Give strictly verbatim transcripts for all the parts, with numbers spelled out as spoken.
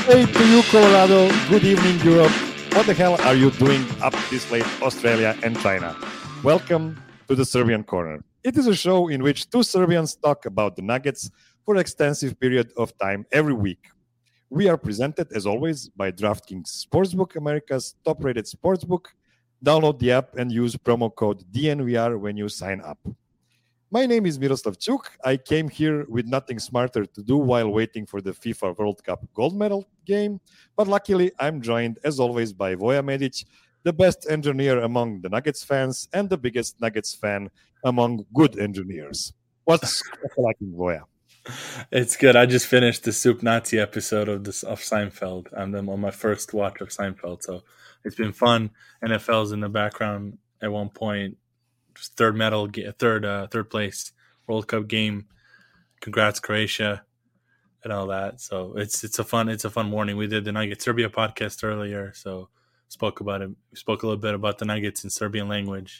day to you, Colorado. Good evening, Europe. What the hell are you doing up this late, Australia and China? Welcome to the Serbian Corner. It is a show in which two Serbians talk about the Nuggets for an extensive period of time every week. We are presented, as always, by DraftKings Sportsbook, America's top-rated sportsbook. Download the app and use promo code D N V R when you sign up. My name is Miroslav Čuk. I came here with nothing smarter to do while waiting for the FIFA World Cup gold medal game. But luckily, I'm joined, as always, by Voja Medic, the best engineer among the Nuggets fans and the biggest Nuggets fan among good engineers. What's like in Voja? It's good. I just finished the Soup Nazi episode of this of Seinfeld. I'm on my first watch of Seinfeld, so it's been fun. N F L's in the background at one point. Third medal, third uh, third place World Cup game. Congrats, Croatia, and all that. So it's it's a fun it's a fun morning. We did the Nuggets Serbia podcast earlier, so spoke about it. We spoke a little bit about the Nuggets in Serbian language,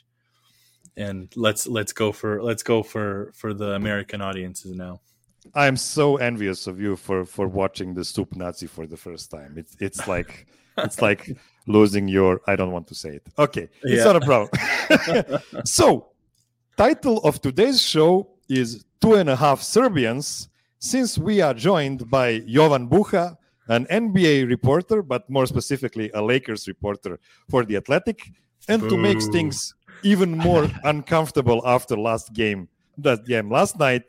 and let's let's go for let's go for for the American audiences now. I'm so envious of you for for watching the Soup Nazi for the first time. It's it's like it's like losing your, I don't want to say it. Okay, it's yeah. not a problem. So, title of today's show is Two and a Half Serbians, since we are joined by Jovan Buha, an N B A reporter, but more specifically a Lakers reporter for The Athletic, and Ooh. to make things even more uncomfortable after last game, that game last night,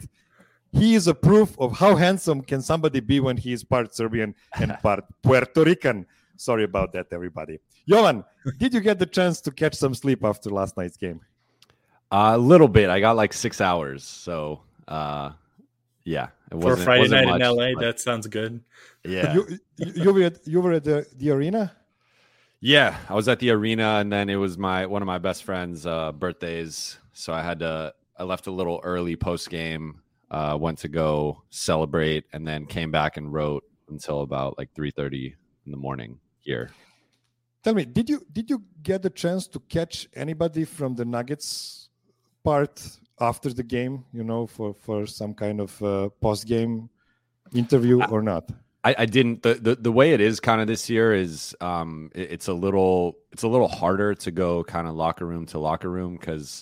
he is a proof of how handsome can somebody be when he is part Serbian and part Puerto Rican. Sorry about that, everybody. Jovan, did you get the chance to catch some sleep after last night's game? A uh, little bit. I got like six hours. So, uh, yeah. It For Friday wasn't night much, in L A, but... that sounds good. Yeah. you, you, you were at, you were at the, the arena? Yeah, I was at the arena, and then it was my one of my best friends' uh, birthdays. So I had to, I left a little early post-game, uh, went to go celebrate, and then came back and wrote until about like three thirty in the morning here. Tell me, did you did you get the chance to catch anybody from the Nuggets part after the game, you know, for, for some kind of uh, post-game interview I, or not? I, I didn't. The, the the way it is kind of this year is um, it, it's a little it's a little harder to go kind of locker room to locker room because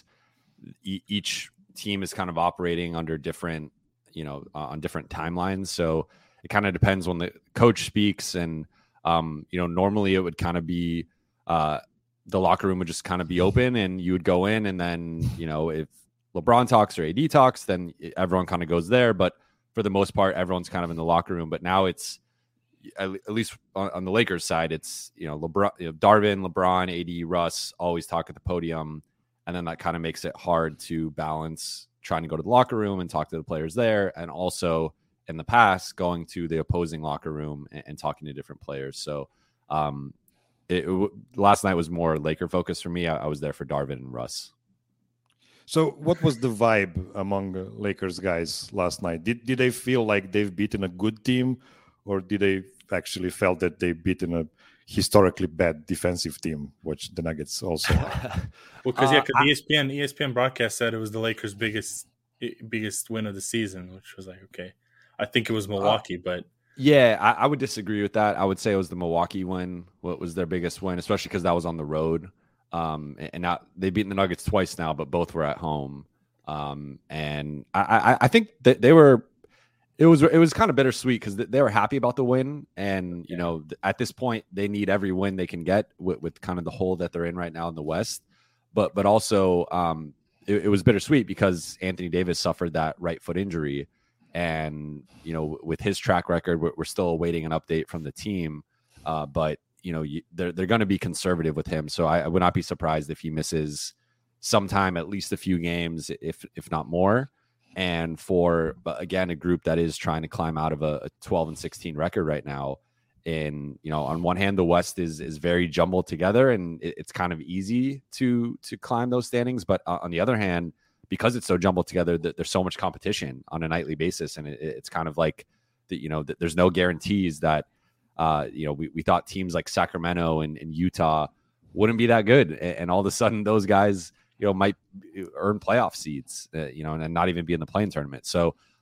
e- each team is kind of operating under different, you know, uh, on different timelines. So it kind of depends when the coach speaks and Um, you know, normally it would kind of be uh, the locker room would just kind of be open and you would go in and then, you know, if LeBron talks or A D talks, then everyone kind of goes there. But for the most part, everyone's kind of in the locker room. But now it's, at, at least on, on the Lakers side, it's, you know, LeBron, you know, Darvin, LeBron, A D, Russ always talk at the podium. And then that kind of makes it hard to balance trying to go to the locker room and talk to the players there. And also, in the past, going to the opposing locker room and, and talking to different players. So um, it, it, last night was more Laker focused for me. I, I was there for Darvin and Russ. So what was the vibe among the Lakers guys last night? Did did they feel like they've beaten a good team, or did they actually felt that they've beaten a historically bad defensive team, which the Nuggets also are? Well, because yeah, because uh, E S P N E S P N broadcast said it was the Lakers' biggest biggest win of the season, which was like, okay. I think it was Milwaukee, but yeah, I, I would disagree with that. I would say it was the Milwaukee win. What was their biggest win, especially because that was on the road. Um, and not they've beaten the Nuggets twice now, but both were at home. Um, and I, I, I think that they were. It was it was kind of bittersweet because they were happy about the win, and you know at this point they need every win they can get with, with kind of the hole that they're in right now in the West. But but also um, it, it was bittersweet because Anthony Davis suffered that right foot injury. And, you know, with his track record, we're, we're still awaiting an update from the team. Uh, but, you know, you, they're, they're going to be conservative with him. So I, I would not be surprised if he misses sometime, at least a few games, if if not more. And for, but again, a group that is trying to climb out of a, a twelve and sixteen record right now. And, you know, on one hand, the West is is very jumbled together and it, it's kind of easy to to climb those standings. But uh, on the other hand, because it's so jumbled together, that there's so much competition on a nightly basis. And it, it's kind of like, the, you know, the, there's no guarantees that, uh, you know, we, we thought teams like Sacramento and, and Utah wouldn't be that good. And, and all of a sudden those guys, you know, might earn playoff seeds, uh, you know, and, and not even be in the play-in tournament. So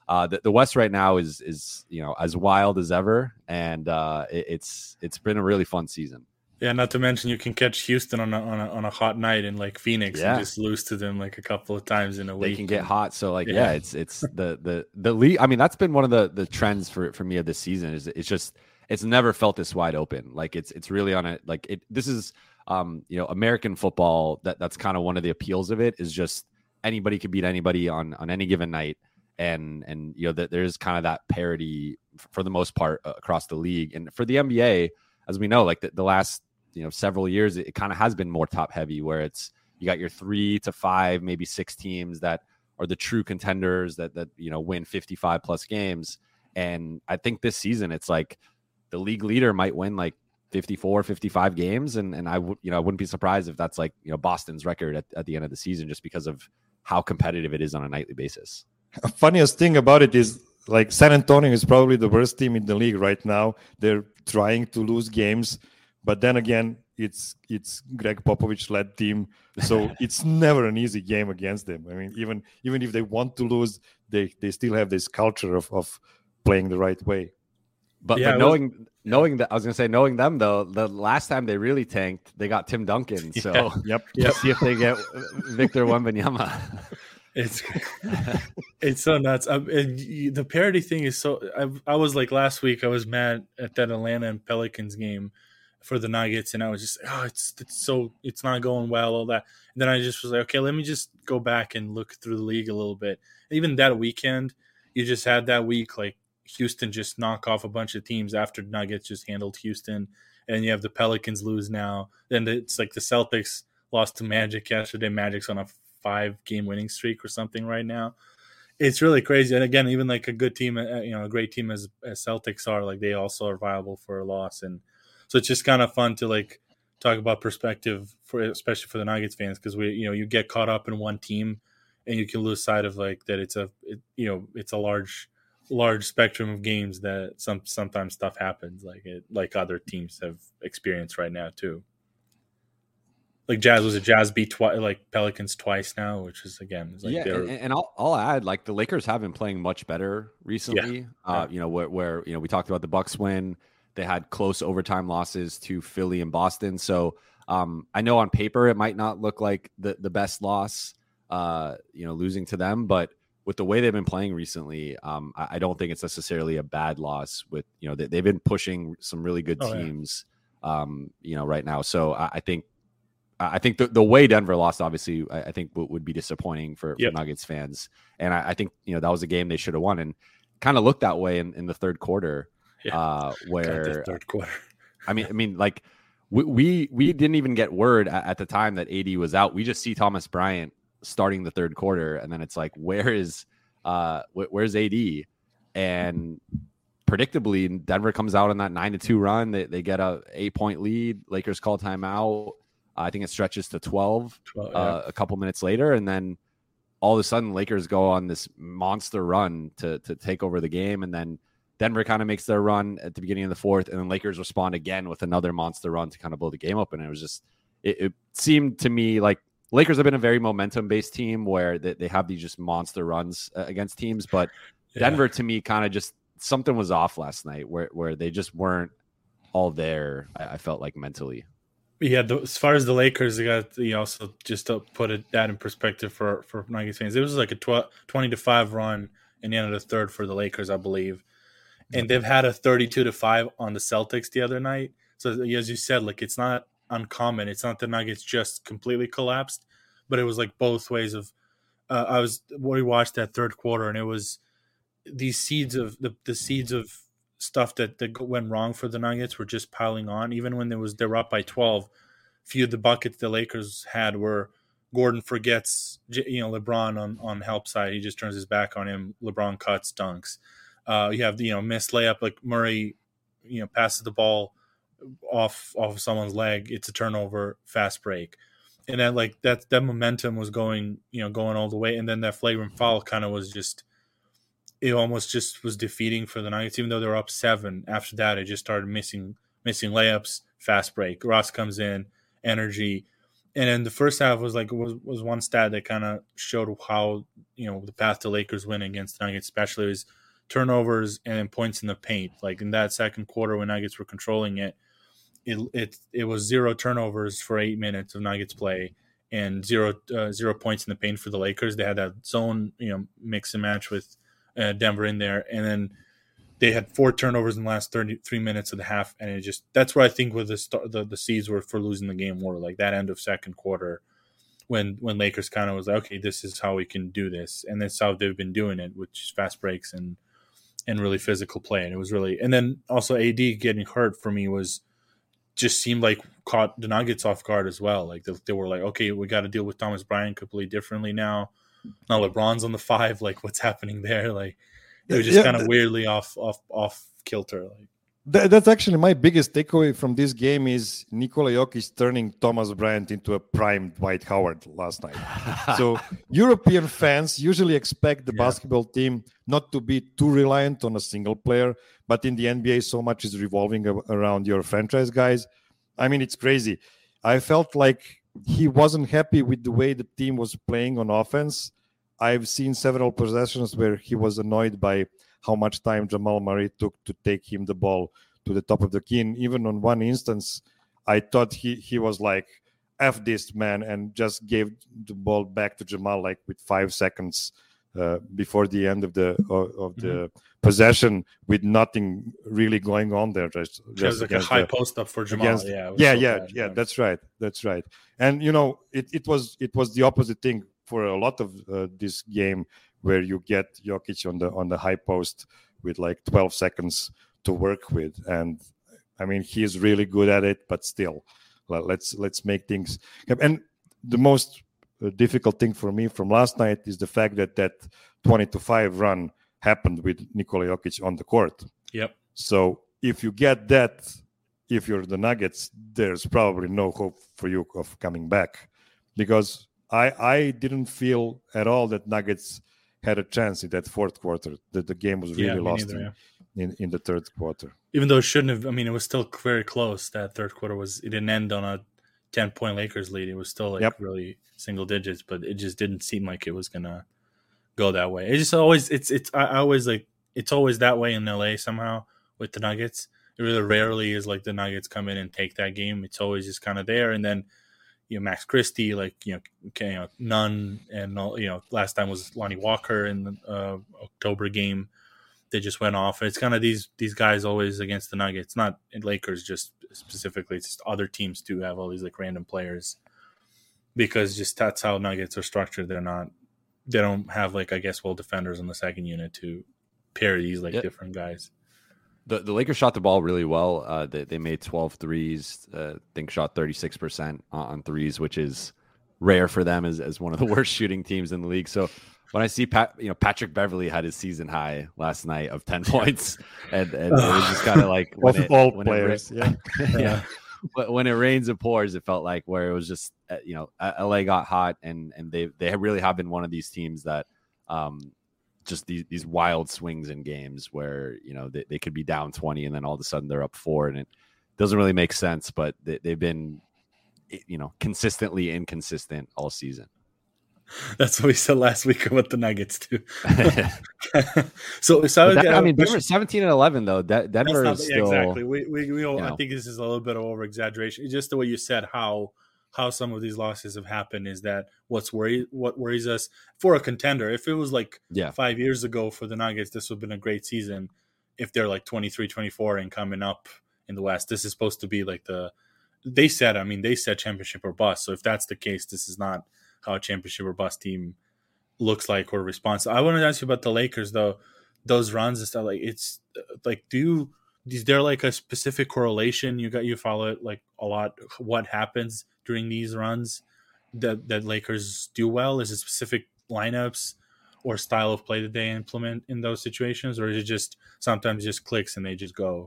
uh, the, the West right now is is you know as wild as ever, and uh, it, it's it's been a really fun season. Yeah, not to mention you can catch Houston on a on a, on a hot night in like Phoenix Yeah. and just lose to them like a couple of times in a week. They can get and, hot, so like yeah. Yeah. yeah, it's it's the the the league. I mean, that's been one of the the trends for for me of this season. Is it's just it's never felt this wide open. Like it's it's really on a like it. This is um you know American football. That that's kind of one of the appeals of it is just anybody could beat anybody on on any given night, and and you know that there's kind of that parity for the most part across the league. And for the N B A, as we know, like the, the last you know several years, it, it kind of has been more top heavy, where it's you got your three to five, maybe six teams that are the true contenders that that you know win fifty-five plus games. And I think this season it's like the league leader might win like fifty-four, fifty-five games, and and I would you know I wouldn't be surprised if that's like you know Boston's record at, at the end of the season, just because of how competitive it is on a nightly basis. Funniest thing about it is like San Antonio is probably the worst team in the league right now. They're trying to lose games, but then again, it's it's Greg Popovich led team, so it's never an easy game against them. I mean, even even if they want to lose, they they still have this culture of of playing the right way. But, Yeah, but it knowing was- knowing that I was gonna say knowing them though, the last time they really tanked, they got Tim Duncan. So Yeah. Yep. let's see if they get Victor Wembanyama. It's it's so nuts. Um, and y- the parody thing is so. I, I was like last week. I was mad at that Atlanta and Pelicans game for the Nuggets, and I was just, oh, it's it's so it's not going well, all that. And then I just was like, okay, let me just go back and look through the league a little bit. Even that weekend, you just had that week like Houston just knock off a bunch of teams after Nuggets just handled Houston, and you have the Pelicans lose now. Then it's like the Celtics lost to Magic yesterday. Magic's on a five game winning streak or something right now. It's really crazy. And again, even like a good team, uh, you know, a great team as, as Celtics are, like they also are viable for a loss. And so it's just kind of fun to like talk about perspective for, especially for the Nuggets fans. Cause we, you know, you get caught up in one team and you can lose sight of like that. It's a, it, you know, it's a large, large spectrum of games that some, sometimes stuff happens like it, like other teams have experienced right now too. Like Jazz was a Jazz beat twice, like Pelicans twice now, which is again, is like yeah, they're- and, and I'll I'll add like the Lakers have been playing much better recently. Uh, Yeah. You know where where you know we talked about the Bucks win, they had close overtime losses to Philly and Boston. So um, I know on paper it might not look like the the best loss, uh, you know, losing to them, but with the way they've been playing recently, um, I, I don't think it's necessarily a bad loss. With you know they, they've been pushing some really good Oh, yeah. teams, um, you know, right now. So I, I think. I think the, the way Denver lost, obviously, I, I think w- would be disappointing for, Yep. for Nuggets fans. And I, I think, you know, that was a game they should have won, and kind of looked that way in, in the third quarter, Yeah. uh, God, where, the third quarter. I mean, I mean, like we, we, we didn't even get word at, at the time that A D was out. We just see Thomas Bryant starting the third quarter. And then it's like, where is, uh, wh- where's A D? And predictably, Denver comes out on that nine to two run. They, they get a eight point lead. Lakers call timeout. I think it stretches to twelve twelve, yeah. uh, a couple minutes later, and then all of a sudden, Lakers go on this monster run to to take over the game, and then Denver kind of makes their run at the beginning of the fourth, and then Lakers respond again with another monster run to kind of blow the game open. And it was just, it, it seemed to me like Lakers have been a very momentum based team where they, they have these just monster runs uh, against teams, but Yeah. Denver to me kind of just something was off last night where where they just weren't all there. I, I felt like mentally. Yeah, the, as far as the Lakers, they got you also just to put it that in perspective for for Nuggets fans. It was like a twelve, twenty to five run in the end of the third for the Lakers, I believe, and they've had a thirty-two to five on the Celtics the other night. So as you said, like it's not uncommon. It's not the Nuggets just completely collapsed, but it was like both ways of. Uh, I was we watched that third quarter, and it was these seeds of the the seeds of. stuff that, that went wrong for the Nuggets were just piling on. Even when there was they were up by twelve, few of the buckets the Lakers had were Gordon forgets, you know, LeBron on, on help side. He just turns his back on him. LeBron cuts, dunks. Uh, you have, you know, missed layup like Murray, you know, passes the ball off off of someone's leg. It's a turnover, fast break. And then like that that momentum was going, you know, going all the way. And then that flagrant foul kind of was just it almost just was defeating for the Nuggets, even though they were up seven. After that, it just started missing missing layups, fast break. Ross comes in, energy, and then the first half was like was was one stat that kind of showed how, you know, the path to Lakers win against the Nuggets, especially was turnovers and then points in the paint. Like in that second quarter when Nuggets were controlling it, it it it was zero turnovers for eight minutes of Nuggets play and zero uh, zero points in the paint for the Lakers. They had that zone, you know, mix and match with uh, Denver in there, and then they had four turnovers in the last thirty-three minutes of the half, and it just that's where I think where the start, the the seeds were for losing the game were, like that end of second quarter when when Lakers kind of was like, okay, this is how we can do this, and that's how they've been doing it, which is fast breaks and and really physical play, and it was really, and then also A D getting hurt for me was just seemed like caught the Nuggets off guard as well. Like they, they were like, okay, we got to deal with Thomas Bryant completely differently now. Now LeBron's on the five, like what's happening there? Like it was just Yeah, kind of th- weirdly off off off kilter. Like Th- that's actually my biggest takeaway from this game is Nikola Jokic turning Thomas Bryant into a prime Dwight Howard last night. So European fans usually expect the Yeah. basketball team not to be too reliant on a single player, but in the N B A, so much is revolving a- around your franchise guys. I mean, it's crazy. I felt like he wasn't happy with the way the team was playing on offense. I've seen several possessions where he was annoyed by how much time Jamal Murray took to take him the ball to the top of the key. And even on one instance, I thought he, he was like, F this man, and just gave the ball back to Jamal like with five seconds uh, before the end of the of, of the Mhm. possession with nothing really going on there. Just, it just was like a against high the- post up for Jamal. against- yeah, it was yeah, so yeah, bad. yeah. That's right. That's right. And you know, it, it was it was the opposite thing for a lot of uh, this game, where you get Jokic on the on the high post with like twelve seconds to work with, and I mean he is really good at it. But still, le- let's let's make things. And the most uh, difficult thing for me from last night is the fact that that twenty to five run happened with Nikola Jokic on the court. Yep. So if you get that, if you're the Nuggets, there's probably no hope for you of coming back, because I I didn't feel at all that Nuggets had a chance in that fourth quarter. That the game was really Yeah, me lost neither, in, yeah. in in the third quarter. Even though it shouldn't have. I mean, it was still very close. That third quarter was. It didn't end on a ten point Lakers lead. It was still like Yep. really single digits, but it just didn't seem like it was gonna go that way. It just always. It's it's. I, I always like. It's always that way in L A somehow with the Nuggets. It really rarely is like the Nuggets come in and take that game. It's always just kind of there, and then you know Max Christie, like you know, okay, you know Nunn, and all, you know last time was Lonnie Walker in the uh, October game. They just went off. It's kind of these these guys always against the Nuggets, not in Lakers just specifically. It's just other teams too have all these like random players, because just that's how Nuggets are structured. They're not. They don't have like I guess well defenders on the second unit to pair these like Yep. different guys. The, the Lakers shot the ball really well. Uh, they, they made twelve threes. Uh, I think shot thirty-six percent on, on threes, which is rare for them as, as one of the worst shooting teams in the league. So when I see Pat, you know, Patrick Beverly had his season high last night of ten points, and, and it was just kind of like when Of it, all when players, it, yeah. yeah. But when it rains, it pours. It felt like where it was just, uh, you know, L A got hot, and and they they really have been one of these teams that, um, just these these wild swings in games where you know they, they could be down twenty and then all of a sudden they're up four, and it doesn't really make sense. But they, they've been, you know, consistently inconsistent all season. That's what we said last week about the Nuggets too. so, so But that- I, I mean, Denver seventeen and eleven though. De- Denver That's is not, yeah, still exactly. We, we, we all, you I know. think this is a little bit of over exaggeration. Just the way you said how how some of these losses have happened is that what's worry what worries us for a contender. If it was like yeah. five years ago for the Nuggets, this would have been a great season. If they're like twenty-three, twenty-four and coming up in the West, this is supposed to be like the they said. I mean, they said championship or bust. So if that's the case, this is not how a championship or bust team looks like or responds. I want to ask you about the Lakers though. Those runs and stuff, like it's like, do you is there like a specific correlation? You got you follow it like a lot. What happens during these runs that that Lakers do well? Is it specific lineups or style of play that they implement in those situations, or is it just sometimes just clicks and they just go?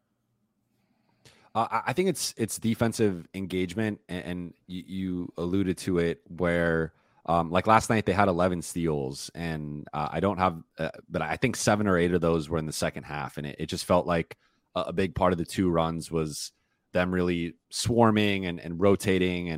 Uh, I think it's it's defensive engagement, and, and you, you alluded to it where. Um, like last night, they had eleven steals, and uh, I don't have, uh, but I think seven or eight of those were in the second half, and it, it just felt like a, a big part of the two runs was them really swarming and, and rotating and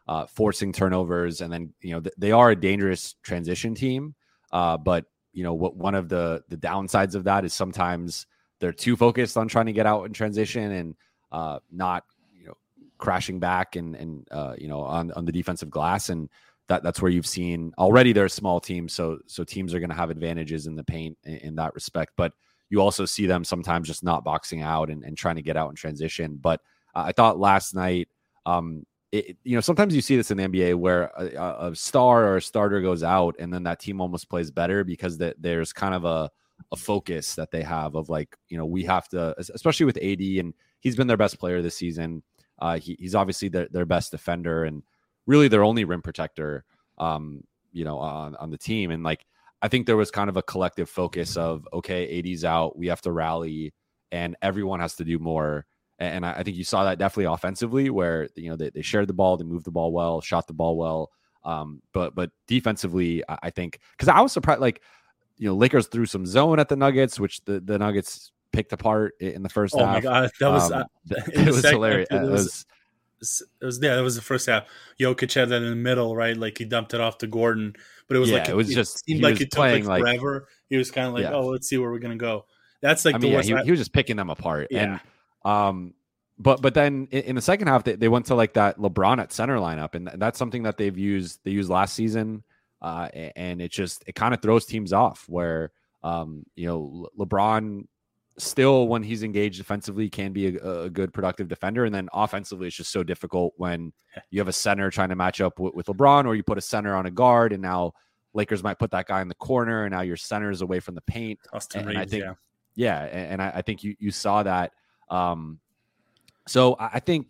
uh, forcing turnovers, and then you know th- they are a dangerous transition team. Uh, but you know what? One of the the downsides of that is sometimes they're too focused on trying to get out in transition and uh, not you know crashing back and and uh, you know on on the defensive glass, and that that's where you've seen already they're a small team, so so teams are going to have advantages in the paint in, in that respect. But you also see them sometimes just not boxing out and, and trying to get out in transition. But uh, I thought last night. Um, It, you know, sometimes you see this in the N B A where a, a star or a starter goes out and then that team almost plays better because that there's kind of a, a focus that they have of like, you know, we have to, especially with A D, and he's been their best player this season. Uh, he, he's obviously their, their best defender and really their only rim protector, um, you know, on, on the team. And like, I think there was kind of a collective focus of, okay, A D's out, we have to rally and everyone has to do more. And I think you saw that definitely offensively where, you know, they, they shared the ball, they moved the ball well, shot the ball well. Um, but but defensively, I think, because I was surprised, like, you know, Lakers threw some zone at the Nuggets, which the, the Nuggets picked apart in the first oh half. Oh, my God. That was, um, uh, it was hilarious. It was, it was, it was, yeah, that was the first half. Jokic had that in the middle, right? Like he dumped it off to Gordon, but it was yeah, like, it was it just, seemed he like was it took playing like like forever. He was kind of like, yeah. oh, let's see where we're going to go. That's like I the mean, worst. Yeah, he, he was just picking them apart. Yeah. And, um, But but then in, in the second half, they, they went to like that LeBron at center lineup, and that's something that they've used. They used last season, uh, and it just it kind of throws teams off. Where um, you know Le- LeBron still, when he's engaged defensively, can be a, a good productive defender, and then offensively, it's just so difficult when you have a center trying to match up with, with LeBron, or you put a center on a guard, and now Lakers might put that guy in the corner, and now your center is away from the paint. Austin and, Reeves, and I think, yeah, yeah, and, and I, I think you you saw that. Um, So I think,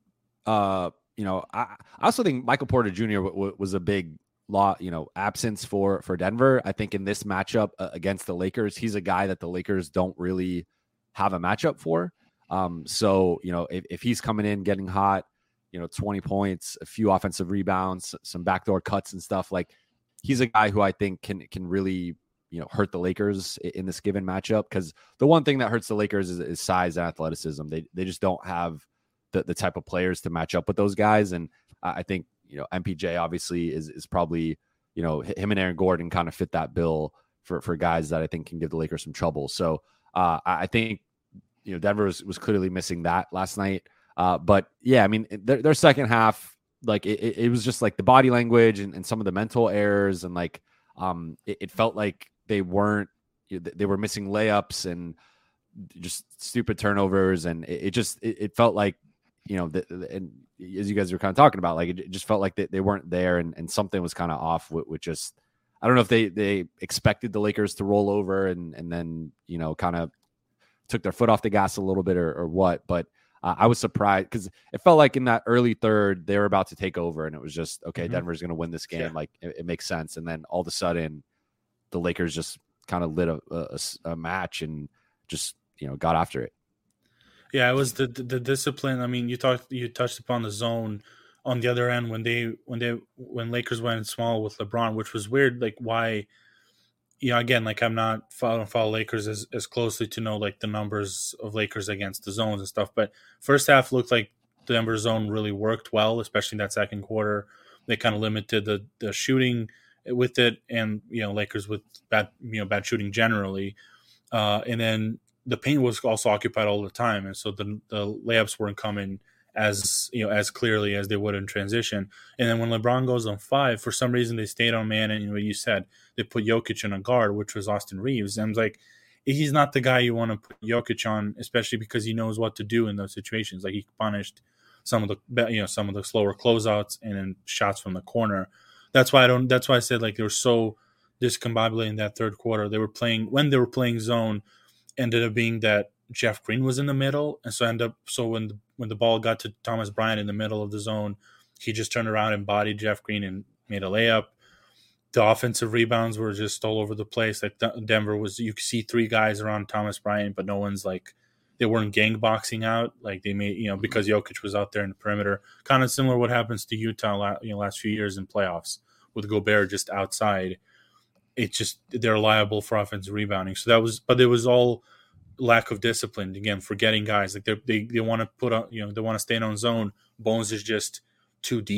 uh, you know, I, I also think Michael Porter Junior W- w- was a big law, you know, absence for for Denver. I think in this matchup uh, against the Lakers, he's a guy that the Lakers don't really have a matchup for. Um, so you know, if, if he's coming in getting hot, you know, twenty points, a few offensive rebounds, some backdoor cuts and stuff, like he's a guy who I think can can really, you know, hurt the Lakers in this given matchup. Because the one thing that hurts the Lakers is, is size and athleticism. They they just don't have the, the type of players to match up with those guys. And I think, you know, M P J obviously is is probably, you know, him and Aaron Gordon kind of fit that bill for, for guys that I think can give the Lakers some trouble. So uh, I think, you know, Denver was, was clearly missing that last night. Uh, but yeah, I mean, their, their second half, like it, it was just like the body language and, and some of the mental errors. And like um, it, it felt like they weren't, they were missing layups and just stupid turnovers. And it, it just, it, it felt like, you know, the, the, and as you guys were kind of talking about, like, it just felt like they, they weren't there and, and something was kind of off with, with just, I don't know if they, they expected the Lakers to roll over and, and then, you know, kind of took their foot off the gas a little bit or, or what, but uh, I was surprised because it felt like in that early third, they were about to take over and it was just, okay, mm-hmm. Denver's going to win this game. Yeah. Like it, it makes sense. And then all of a sudden the Lakers just kind of lit a, a, a match and just, you know, got after it. Yeah, it was the, the the discipline. I mean, you talked you touched upon the zone on the other end when they when they when Lakers went small with LeBron, which was weird. Like why, you know, again, like I'm not following follow Lakers as, as closely to know like the numbers of Lakers against the zones and stuff. But first half looked like the Denver zone really worked well, especially in that second quarter. They kind of limited the the shooting with it, and you know, Lakers with bad you know bad shooting generally, uh, and then. The paint was also occupied all the time, and so the the layups weren't coming as you know as clearly as they would in transition. And then when LeBron goes on five, for some reason they stayed on man, and you know you said they put Jokic in a guard, which was Austin Reeves. And I was like, he's not the guy you want to put Jokic on, especially because he knows what to do in those situations. Like he punished some of the you know some of the slower closeouts and then shots from the corner. That's why I don't. That's why I said like they were so discombobulated in that third quarter. They were playing when they were playing zone. Ended up being that Jeff Green was in the middle, and so end up so when the, when the ball got to Thomas Bryant in the middle of the zone, he just turned around and bodied Jeff Green and made a layup. The offensive rebounds were just all over the place. Like Denver was, you could see three guys around Thomas Bryant, but no one's like they weren't gang boxing out like they made you know because Jokic was out there in the perimeter. Kind of similar to what happens to Utah you know last few years in playoffs with Gobert just outside. It's just they're liable for offensive rebounding. So that was, but it was all lack of discipline. Again, forgetting guys like they they they want to put on, you know, they want to stay in on zone. Bones is just too deep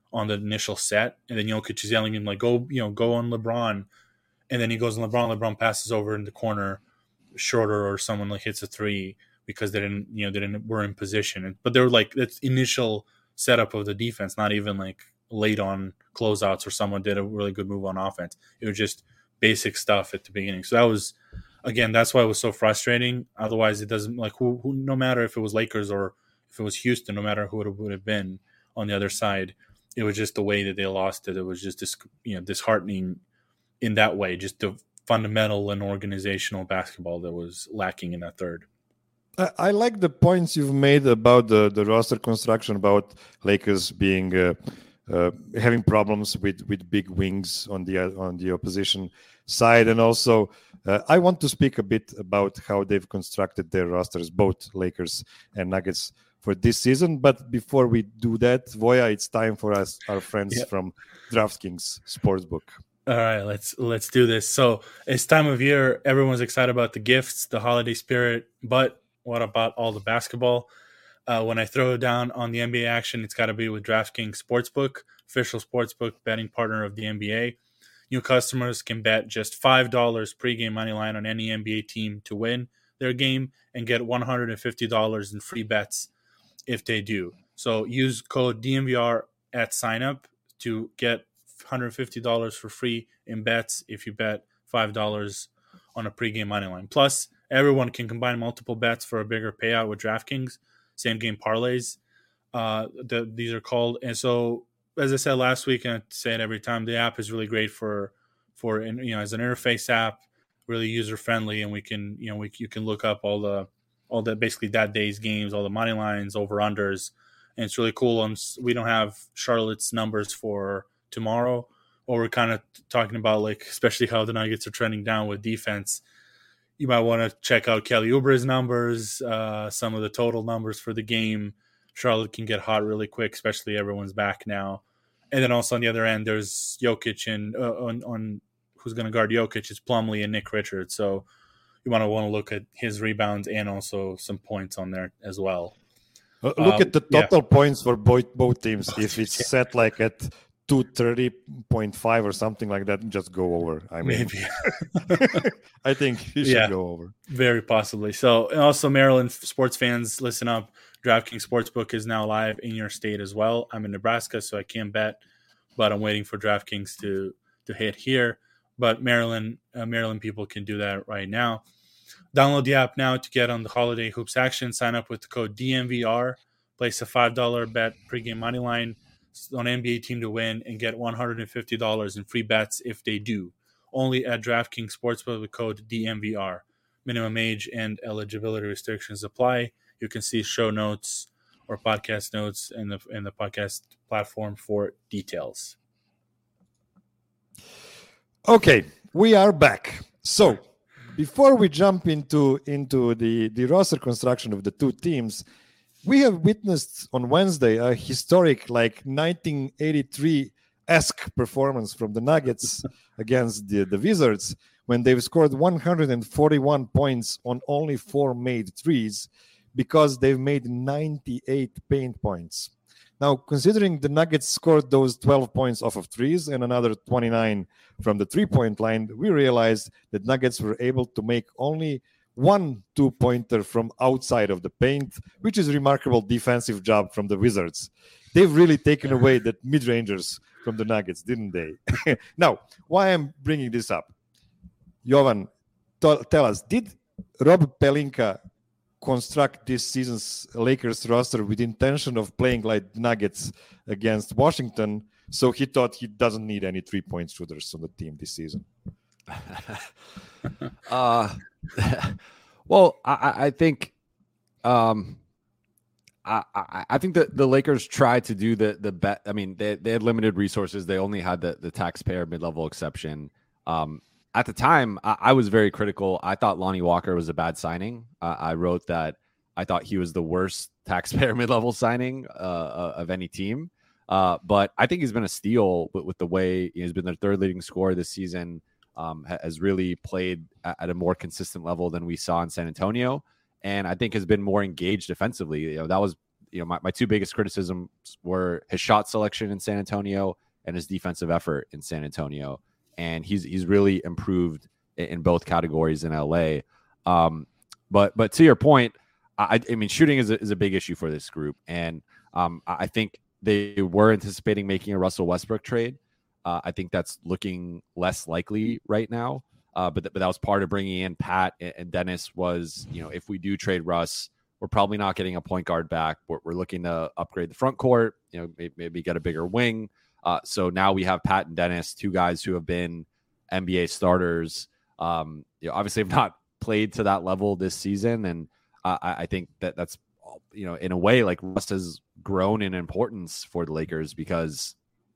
on the initial set, and then Jokic is yelling at him like, "Go, you know, go on LeBron," and then he goes on LeBron. LeBron passes over in the corner, shorter, or someone like hits a three because they didn't, you know, they didn't were in position. But they were like that's initial setup of the defense, not even like late on closeouts or someone did a really good move on offense. It was just basic stuff at the beginning. So that was, again, that's why it was so frustrating. Otherwise, it doesn't like who, who no matter if it was Lakers or if it was Houston, no matter who it would have been on the other side, it was just the way that they lost it. It was just this, you know, disheartening in that way, just the fundamental and organizational basketball that was lacking in that third. I, I like the points you've made about the, the roster construction, about Lakers being uh, uh, having problems with, with big wings on the on the opposition side, and also uh, I want to speak a bit about how they've constructed their rosters, both Lakers and Nuggets, for this season. But before we do that, Voya, it's time for us, our friends yeah. from DraftKings Sportsbook. All right, let's let's do this. So it's time of year. Everyone's excited about the gifts, the holiday spirit, but what about all the basketball? Uh, when I throw it down on the N B A action, it's got to be with DraftKings Sportsbook, official sportsbook betting partner of the N B A. New customers can bet just five dollars pregame money line on any N B A team to win their game and get one hundred fifty dollars in free bets if they do. So use code D N V R at signup to get one hundred fifty dollars for free in bets if you bet five dollars on a pregame money line. Plus, everyone can combine multiple bets for a bigger payout with DraftKings, same game parlays. Uh, the, these are called. And so, as I said last week, and I say it every time, the app is really great for, for you know, as an interface app, really user friendly, and we can, you know, we you can look up all the, all the basically that day's games, all the money lines, over unders, and it's really cool. Um, we don't have Charlotte's numbers for tomorrow, or we're kind of talking about like, especially how the Nuggets are trending down with defense. You might want to check out Kelly Oubre's numbers, uh, some of the total numbers for the game. Charlotte can get hot really quick, especially everyone's back now. And then also on the other end, there's Jokic and uh, on, on who's going to guard Jokic is Plumlee and Nick Richards. So you want to want to look at his rebounds and also some points on there as well. Uh, look um, at the total yeah. points for both both teams. If it's set like at two thirty point five or something like that, just go over. I mean, maybe. I think you should yeah, go over. Very possibly. So, and also Maryland sports fans, listen up. DraftKings Sportsbook is now live in your state as well. I'm in Nebraska, so I can't bet, but I'm waiting for DraftKings to to hit here. But Maryland, uh, Maryland people can do that right now. Download the app now to get on the holiday hoops action. Sign up with the code D N V R. Place a five dollars bet pregame money line on N B A team to win and get one hundred fifty dollars in free bets if they do. Only at DraftKings Sportsbook with code D N V R. Minimum age and eligibility restrictions apply. You can see show notes or podcast notes in the in the podcast platform for details. Okay, we are back. So before we jump into into the, the roster construction of the two teams, we have witnessed on Wednesday a historic, like nineteen eighty-three-esque performance from the Nuggets against the, the Wizards, when they've scored one hundred forty-one points on only four made threes, because they've made ninety-eight paint points. Now, considering the Nuggets scored those twelve points off of threes and another twenty-nine from the three-point line, we realized that Nuggets were able to make only one two-pointer from outside of the paint, which is a remarkable defensive job from the Wizards. They've really taken away that mid-rangers from the Nuggets, didn't they? Now, why I'm bringing this up? Jovan, t- tell us, did Rob Pelinka construct this season's Lakers roster with intention of playing like Nuggets against Washington, so he thought he doesn't need any three-point shooters on the team this season? uh, well, I, I think, um, I, I, I think that the Lakers tried to do the the bet. I mean, they they had limited resources. They only had the the taxpayer mid-level exception. Um, at the time, I, I was very critical. I thought Lonnie Walker was a bad signing. Uh, I wrote that I thought he was the worst taxpayer mid-level signing uh, of any team. Uh, but I think he's been a steal with, with the way he's been their third leading scorer this season. Um, has really played at a more consistent level than we saw in San Antonio, and I think has been more engaged defensively. You know, that was you know, my, my two biggest criticisms were his shot selection in San Antonio and his defensive effort in San Antonio. And he's he's really improved in, in both categories in L A. Um, but but to your point, I, I mean, shooting is a, is a big issue for this group. And um, I think they were anticipating making a Russell Westbrook trade. Uh, I think that's looking less likely right now. Uh, but, th- but that was part of bringing in Pat and, and Dennis was, you know, if we do trade Russ, we're probably not getting a point guard back. We're, we're looking to upgrade the front court, you know, maybe, maybe get a bigger wing. Uh, so now we have Pat and Dennis, two guys who have been N B A starters. Um, you know, obviously have not played to that level this season. And uh, I, I think that that's, you know, in a way, like Russ has grown in importance for the Lakers because,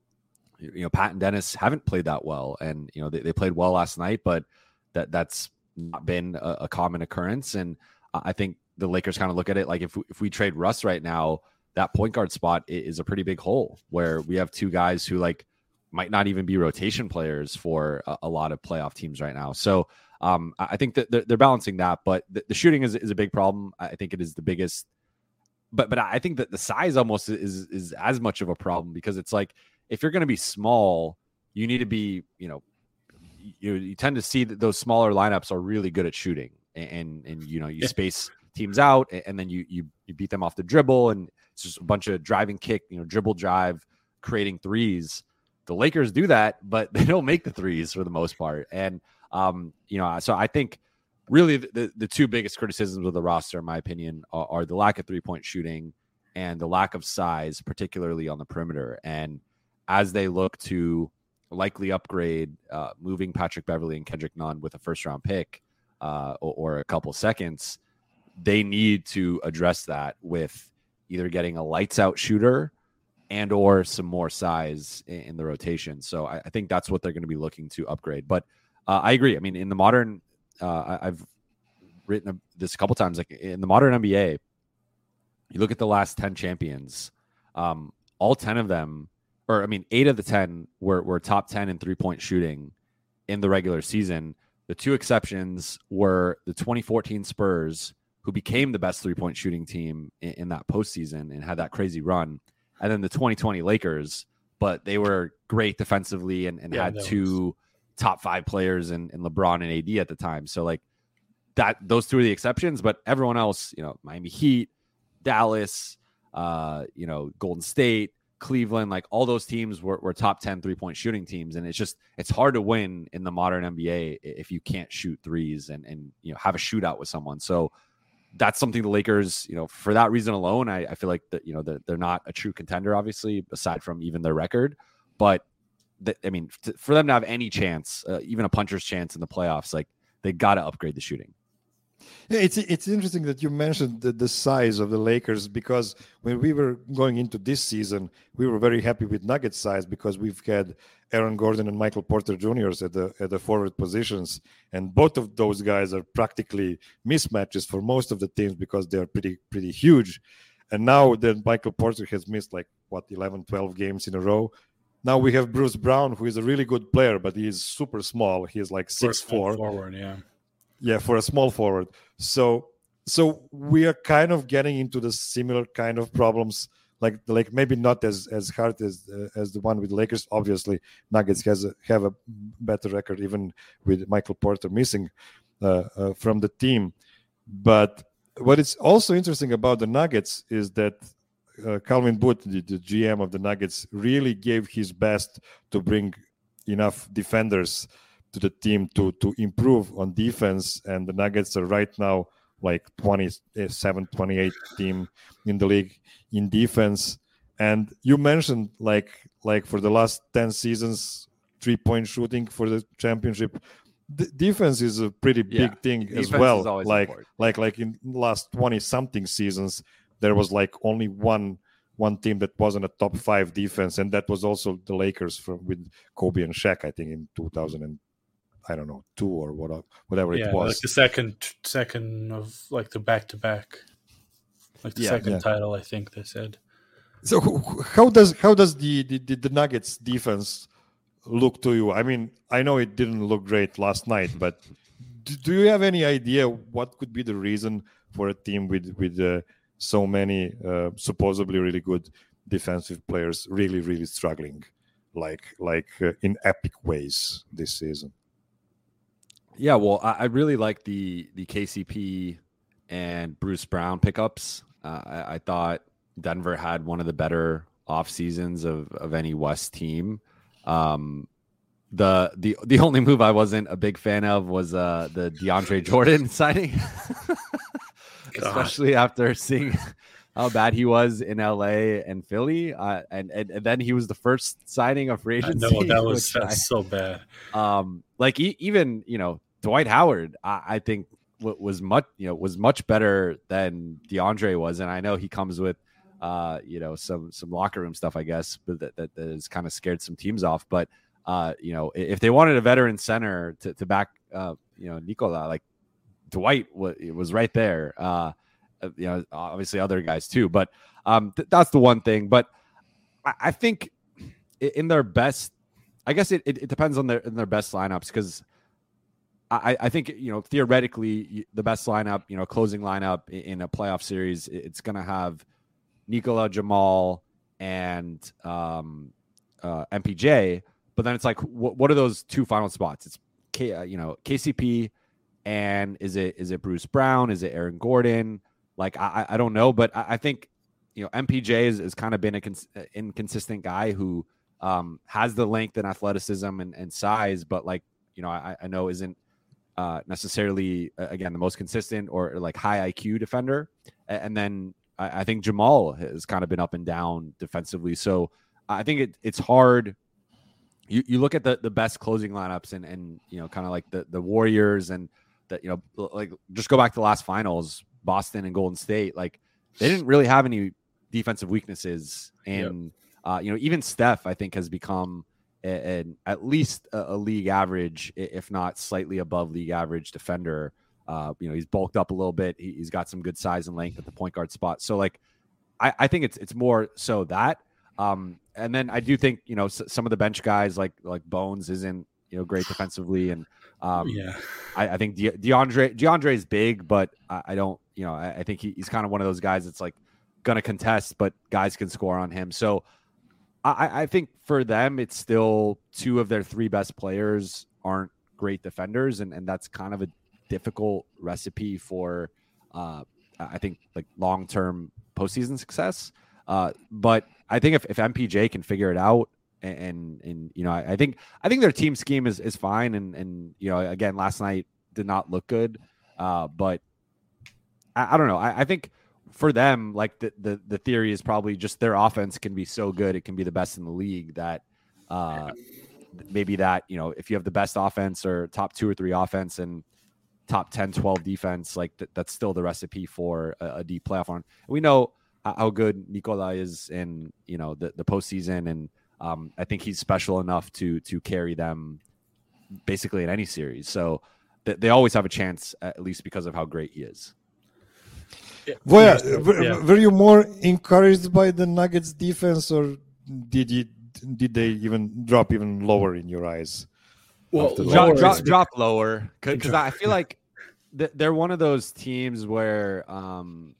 you know, Pat and Dennis haven't played that well. And, you know, they, they played well last night, but that that's not been a, a common occurrence. And I think the Lakers kind of look at it like if we, if we trade Russ right now, that point guard spot is a pretty big hole where we have two guys who like might not even be rotation players for a, a lot of playoff teams right now. So um, I think that they're, they're balancing that, but the, the shooting is, is a big problem. I think it is the biggest, but, but I think that the size almost is, is as much of a problem because it's like, if you're going to be small, you need to be, you know, you, you tend to see that those smaller lineups are really good at shooting and, and, and you know, you space teams out and then you, you, you beat them off the dribble and it's just a bunch of driving kick, you know, dribble drive, creating threes. The Lakers do that, but they don't make the threes for the most part. And, um, you know, so I think really the, the, the two biggest criticisms of the roster, in my opinion, are, are the lack of three-point shooting and the lack of size, particularly on the perimeter. And as they look to likely upgrade, uh, moving Patrick Beverley and Kendrick Nunn with a first-round pick uh, or, or a couple seconds, they need to address that with either getting a lights-out shooter and or some more size in, in the rotation. So I, I think that's what they're going to be looking to upgrade. But uh, I agree. I mean, in the modern, uh, I, I've written this a couple times, like in the modern N B A, you look at the last ten champions, um, all ten of them, or I mean, eight of the ten were, were top ten in three-point shooting in the regular season. The two exceptions were the twenty fourteen Spurs, who became the best three-point shooting team in, in that postseason and had that crazy run, and then the twenty twenty Lakers, but they were great defensively and, and Yeah, had that two was... top five players in, in LeBron and A D at the time. So like that, those two are the exceptions, but everyone else, you know, Miami Heat, Dallas, uh, you know, Golden State, Cleveland, like all those teams were, were top ten three-point shooting teams. And it's just, it's hard to win in the modern N B A if you can't shoot threes and, and, you know, have a shootout with someone. So that's something the Lakers, you know, for that reason alone, I, I feel like that, you know, they're, they're not a true contender, obviously, aside from even their record. But th- I mean, t- for them to have any chance, uh, even a puncher's chance in the playoffs, like they got to upgrade the shooting. Yeah, it's it's interesting that you mentioned the, the size of the Lakers because when we were going into this season, we were very happy with Nuggets size because we've had Aaron Gordon and Michael Porter Juniors at the at the forward positions, and both of those guys are practically mismatches for most of the teams because they're pretty pretty huge. And now that Michael Porter has missed like what eleven, twelve games in a row, now we have Bruce Brown, who is a really good player, but he is super small. He is like six four. Forward, yeah. Yeah, for a small forward. So so we are kind of getting into the similar kind of problems, like like maybe not as as hard as uh, as the one with the Lakers. Obviously, Nuggets has a, have a better record even with Michael Porter missing uh, uh, from the team. But what is also interesting about the Nuggets is that uh, Calvin Booth, the, the G M of the Nuggets, really gave his best to bring enough defenders to the team to to improve on defense, and the Nuggets are right now like twenty-seven, twenty-eight team in the league in defense. And you mentioned like like for the last ten seasons, three-point shooting for the championship. The defense is a pretty Yeah, big thing defense as well. is always Like important. like like in the last twenty something seasons, there was like only one one team that wasn't a top five defense, and that was also the Lakers from with Kobe and Shaq, I think, in two thousand and I don't know, two or what, whatever Yeah, it was. like the second second of like the back to back, like the Yeah, second yeah. title. I think they said. So how does how does the, the, the Nuggets defense look to you? I mean, I know it didn't look great last night, but do, do you have any idea what could be the reason for a team with with uh, so many uh, supposedly really good defensive players really, really struggling, like like uh, in epic ways this season. Yeah, well, I, I really like the the K C P and Bruce Brown pickups. Uh, I, I thought Denver had one of the better off seasons of of any West team. Um, the the the only move I wasn't a big fan of was uh, the DeAndre Jordan signing, especially after seeing how bad he was in L A and Philly, uh, and, and and then he was the first signing of free agency. No, that was that's I, so bad. Um, like e- even you know Dwight Howard, I, I think w- was much you know was much better than DeAndre was, and I know he comes with uh you know some some locker room stuff, I guess, but that that, that has kind of scared some teams off. But uh you know if they wanted a veteran center to to back uh you know Nikola, like Dwight was was right there. Uh, you know, obviously other guys too, but um, th- that's the one thing. But I, I think in their best, I guess it, it, it depends on their in their best lineups, because I, I think you know theoretically the best lineup, you know, closing lineup in a playoff series, it's going to have Nikola, Jamal, and um, uh, M P J. But then it's like, what, what are those two final spots? It's K, uh, you know, K C P, and is it is it Bruce Brown? Is it Aaron Gordon? Like, I, I don't know, but I, I think, you know, M P J has, has kind of been a cons- inconsistent guy who um, has the length and athleticism and, and size, but like, you know, I, I know isn't uh, necessarily, uh, again, the most consistent or, or like high I Q defender. And then I, I think Jamal has kind of been up and down defensively. So I think it, it's hard. You, you look at the, the best closing lineups and, and, you know, kind of like the, the Warriors and that, you know, like just go back to the last finals, Boston and Golden State, like they didn't really have any defensive weaknesses. And, yep. uh, you know, even Steph, I think, has become a, a, at least a, a league average, if not slightly above league average defender. Uh, you know, he's bulked up a little bit. He, he's got some good size and length at the point guard spot. So like, I, I think it's, it's more so that, um, and then I do think, you know, s- some of the bench guys like, like Bones isn't, you know, great defensively. And, um, yeah, I, I think De- DeAndre, DeAndre is big, but I, I don't, you know, I, I think he, he's kind of one of those guys that's like going to contest, but guys can score on him. So I, I think for them, it's still two of their three best players aren't great defenders. And, and that's kind of a difficult recipe for, uh, I think, like long-term postseason success. Uh, but I think if, if M P J can figure it out, and, and, and you know, I, I think, I think their team scheme is, is fine. And, and, you know, again, last night did not look good. Uh, but I, I don't know. I, I think for them, like the, the, the theory is probably just their offense can be so good. It can be the best in the league that, uh, maybe that, you know, if you have the best offense or top two or three offense and top ten, twelve defense, like th- that's still the recipe for a, a deep playoff run. We know how good Nikola is in, you know, the, the postseason. And um, I think he's special enough to, to carry them basically in any series. So th- they always have a chance, at least because of how great he is. Yeah. Well, yeah. Were you more encouraged by the Nuggets defense, or did you, did they even drop even lower in your eyes? Well, drop, drop, drop lower, because I feel like th- they're one of those teams where, um,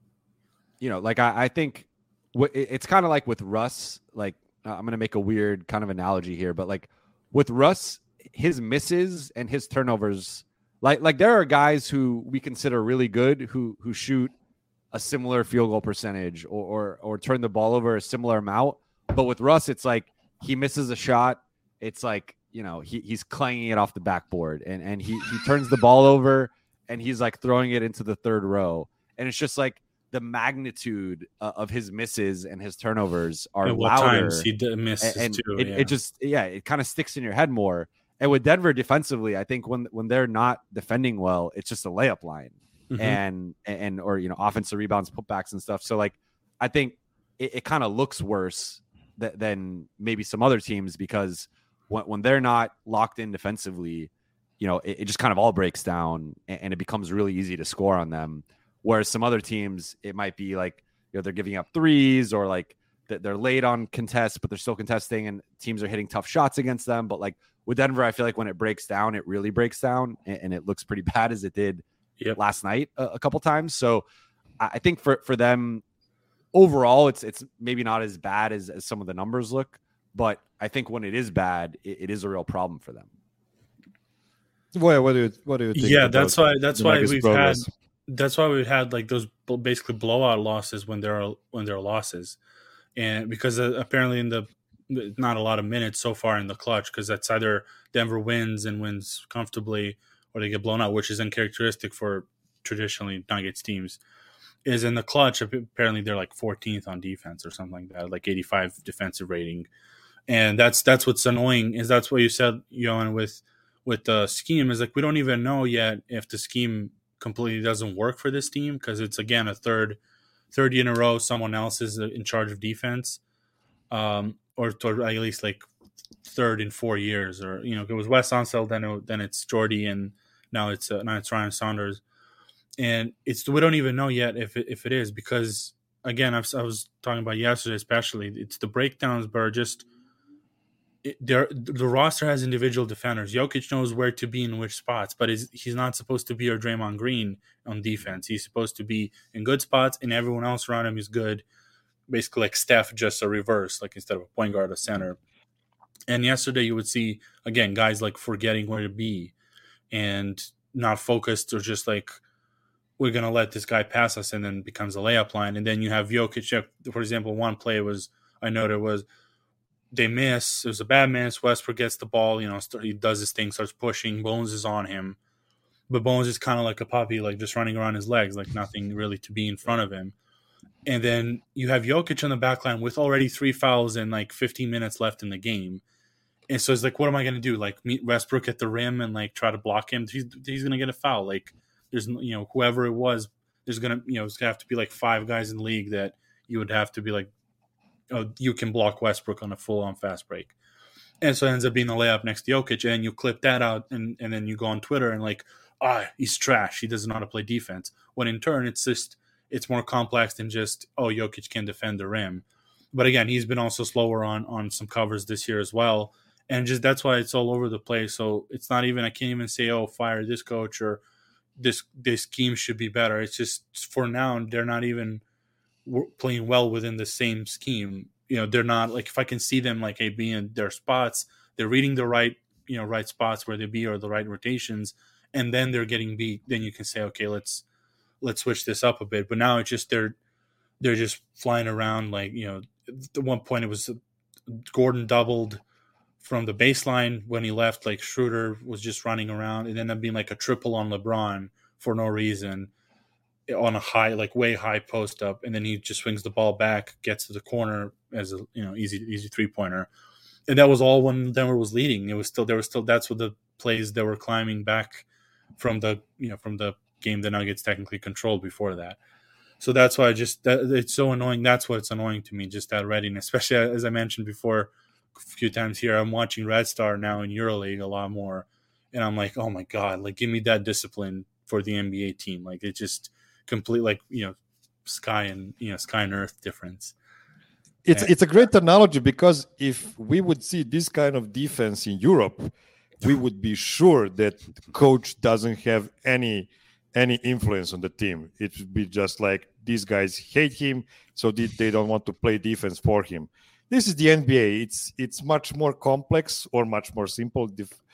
you know, like I, I think w- it's kind of like with Russ. Like uh, I'm going to make a weird kind of analogy here, but like with Russ, his misses and his turnovers, like like there are guys who we consider really good who who shoot a similar field goal percentage or or, or turn the ball over a similar amount. But with Russ, it's like he misses a shot. It's like, you know, he, he's clanging it off the backboard and, and he, he turns the ball over and he's like throwing it into the third row. And it's just like the magnitude uh, of his misses and his turnovers are and what louder. Times he did misses and too. It, yeah. it just, yeah, it kind of sticks in your head more. And with Denver defensively, I think when, when they're not defending well, it's just a layup line mm-hmm. and, and, or, you know, offensive rebounds, putbacks and stuff. So like, I think it, it kind of looks worse th- than maybe some other teams because when, when they're not locked in defensively, you know, it, it just kind of all breaks down and, and it becomes really easy to score on them. Whereas some other teams, it might be like, you know, they're giving up threes or like they're late on contests, but they're still contesting and teams are hitting tough shots against them. But like with Denver, I feel like when it breaks down, it really breaks down and, and it looks pretty bad as it did yep. last night a, a couple times. So I think for, for them overall, it's it's maybe not as bad as, as some of the numbers look, but I think when it is bad, it, it is a real problem for them. Well, what do you what do you think? Yeah, that's why that's why we've progress? had that's why we've had like those basically blowout losses when there are when there are losses, and because uh, apparently in the not a lot of minutes so far in the clutch, because that's either Denver wins and wins comfortably, or they get blown out, which is uncharacteristic for traditionally Nuggets teams. Is in the clutch. Apparently they're like fourteenth on defense or something like that, like eighty-five defensive rating, and that's that's what's annoying. Is that's what you said, Johan, with. with the scheme is like we don't even know yet if the scheme completely doesn't work for this team, because it's again a third third year in a row someone else is in charge of defense, um, or, or at least like third in four years, or you know, if it was Wes Unseld, then it, then it's Jordy, and now it's uh, now it's Ryan Saunders, and it's we don't even know yet if it, if it is, because again I've, I was talking about yesterday especially, it's the breakdowns, but are just. It, there, the roster has individual defenders. Jokic knows where to be in which spots, but is, he's not supposed to be your Draymond Green on defense. He's supposed to be in good spots, and everyone else around him is good. Basically, like Steph, just a reverse, like instead of a point guard, a center. And yesterday, you would see again guys like forgetting where to be and not focused, or just like we're gonna let this guy pass us, and then becomes a layup line. And then you have Jokic. For example, one play was I noted was. They miss. It was a bad miss. Westbrook gets the ball. You know, start, he does his thing, starts pushing. Bones is on him, but Bones is kind of like a puppy, like just running around his legs, like nothing really to be in front of him. And then you have Jokic on the back line with already three fouls and like fifteen minutes left in the game. And so it's like, what am I going to do? Like meet Westbrook at the rim and like try to block him? He's, he's going to get a foul. Like there's, you know, whoever it was, there's going to, you know, it's going to have to be like five guys in the league that you would have to be like, oh, you can block Westbrook on a full-on fast break. And so it ends up being a layup next to Jokic, and you clip that out, and, and then you go on Twitter and like, ah, he's trash. He doesn't know how to play defense. When in turn, it's just it's more complex than just, oh, Jokic can defend the rim. But again, he's been also slower on on some covers this year as well. And just that's why it's all over the place. So it's not even, I can't even say, oh, fire this coach, or this this scheme should be better. It's just for now, they're not even playing well within the same scheme. You know, they're not like, if I can see them like hey, being in their spots, they're reading the right, you know, right spots where they be, or the right rotations, and then they're getting beat. Then you can say, okay, let's let's switch this up a bit. But now it's just they're they're just flying around. Like, you know, at one point it was Gordon doubled from the baseline when he left. Like Schroeder was just running around. It ended up being like a triple on LeBron for no reason, on a high, like way high post up, and then he just swings the ball back, gets to the corner as a, you know, easy easy three pointer, and that was all when Denver was leading. It was still there was still that's what the plays that were climbing back from the you know from the game the Nuggets technically controlled before that. So that's why I just that, it's so annoying. That's what's annoying to me, just that readiness, especially as I mentioned before a few times here. I'm watching Red Star now in EuroLeague a lot more, and I'm like, oh my god, like give me that discipline for the N B A team. Like it just. Complete, like, you know, sky and you know sky and earth difference. It's and, it's a great analogy, because if we would see this kind of defense in Europe, we would be sure that the coach doesn't have any any influence on the team. It would be just like these guys hate him, so they, they don't want to play defense for him. This is the N B A. It's it's much more complex or much more simple.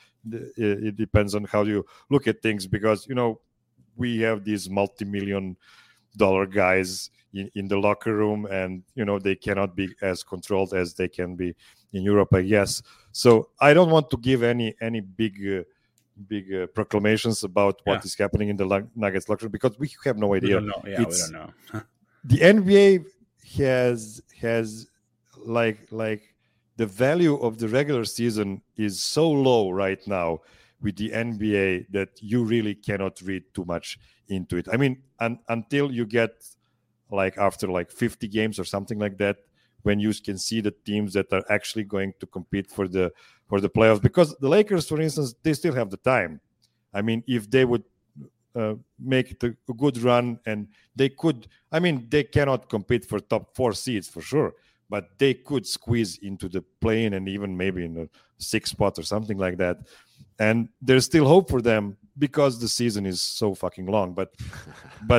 It depends on how you look at things, because you know. We have these multi-million dollar guys in, in the locker room, and you know they cannot be as controlled as they can be in Europe, I guess. So I don't want to give any any big uh, big uh, proclamations about what yeah. is happening in the Nuggets locker room, because we have no idea. We don't know. Yeah, it's, we don't know. The N B A has has like like the value of the regular season is so low right now with the N B A that you really cannot read too much into it. I mean, un- until you get like after like fifty games or something like that, when you can see the teams that are actually going to compete for the for the playoffs. Because the Lakers, for instance, they still have the time. I mean, if they would uh, make it a good run, and they could, I mean, they cannot compete for top four seeds for sure, but they could squeeze into the play-in and even maybe in the sixth spot or something like that. And there's still hope for them because the season is so fucking long. But but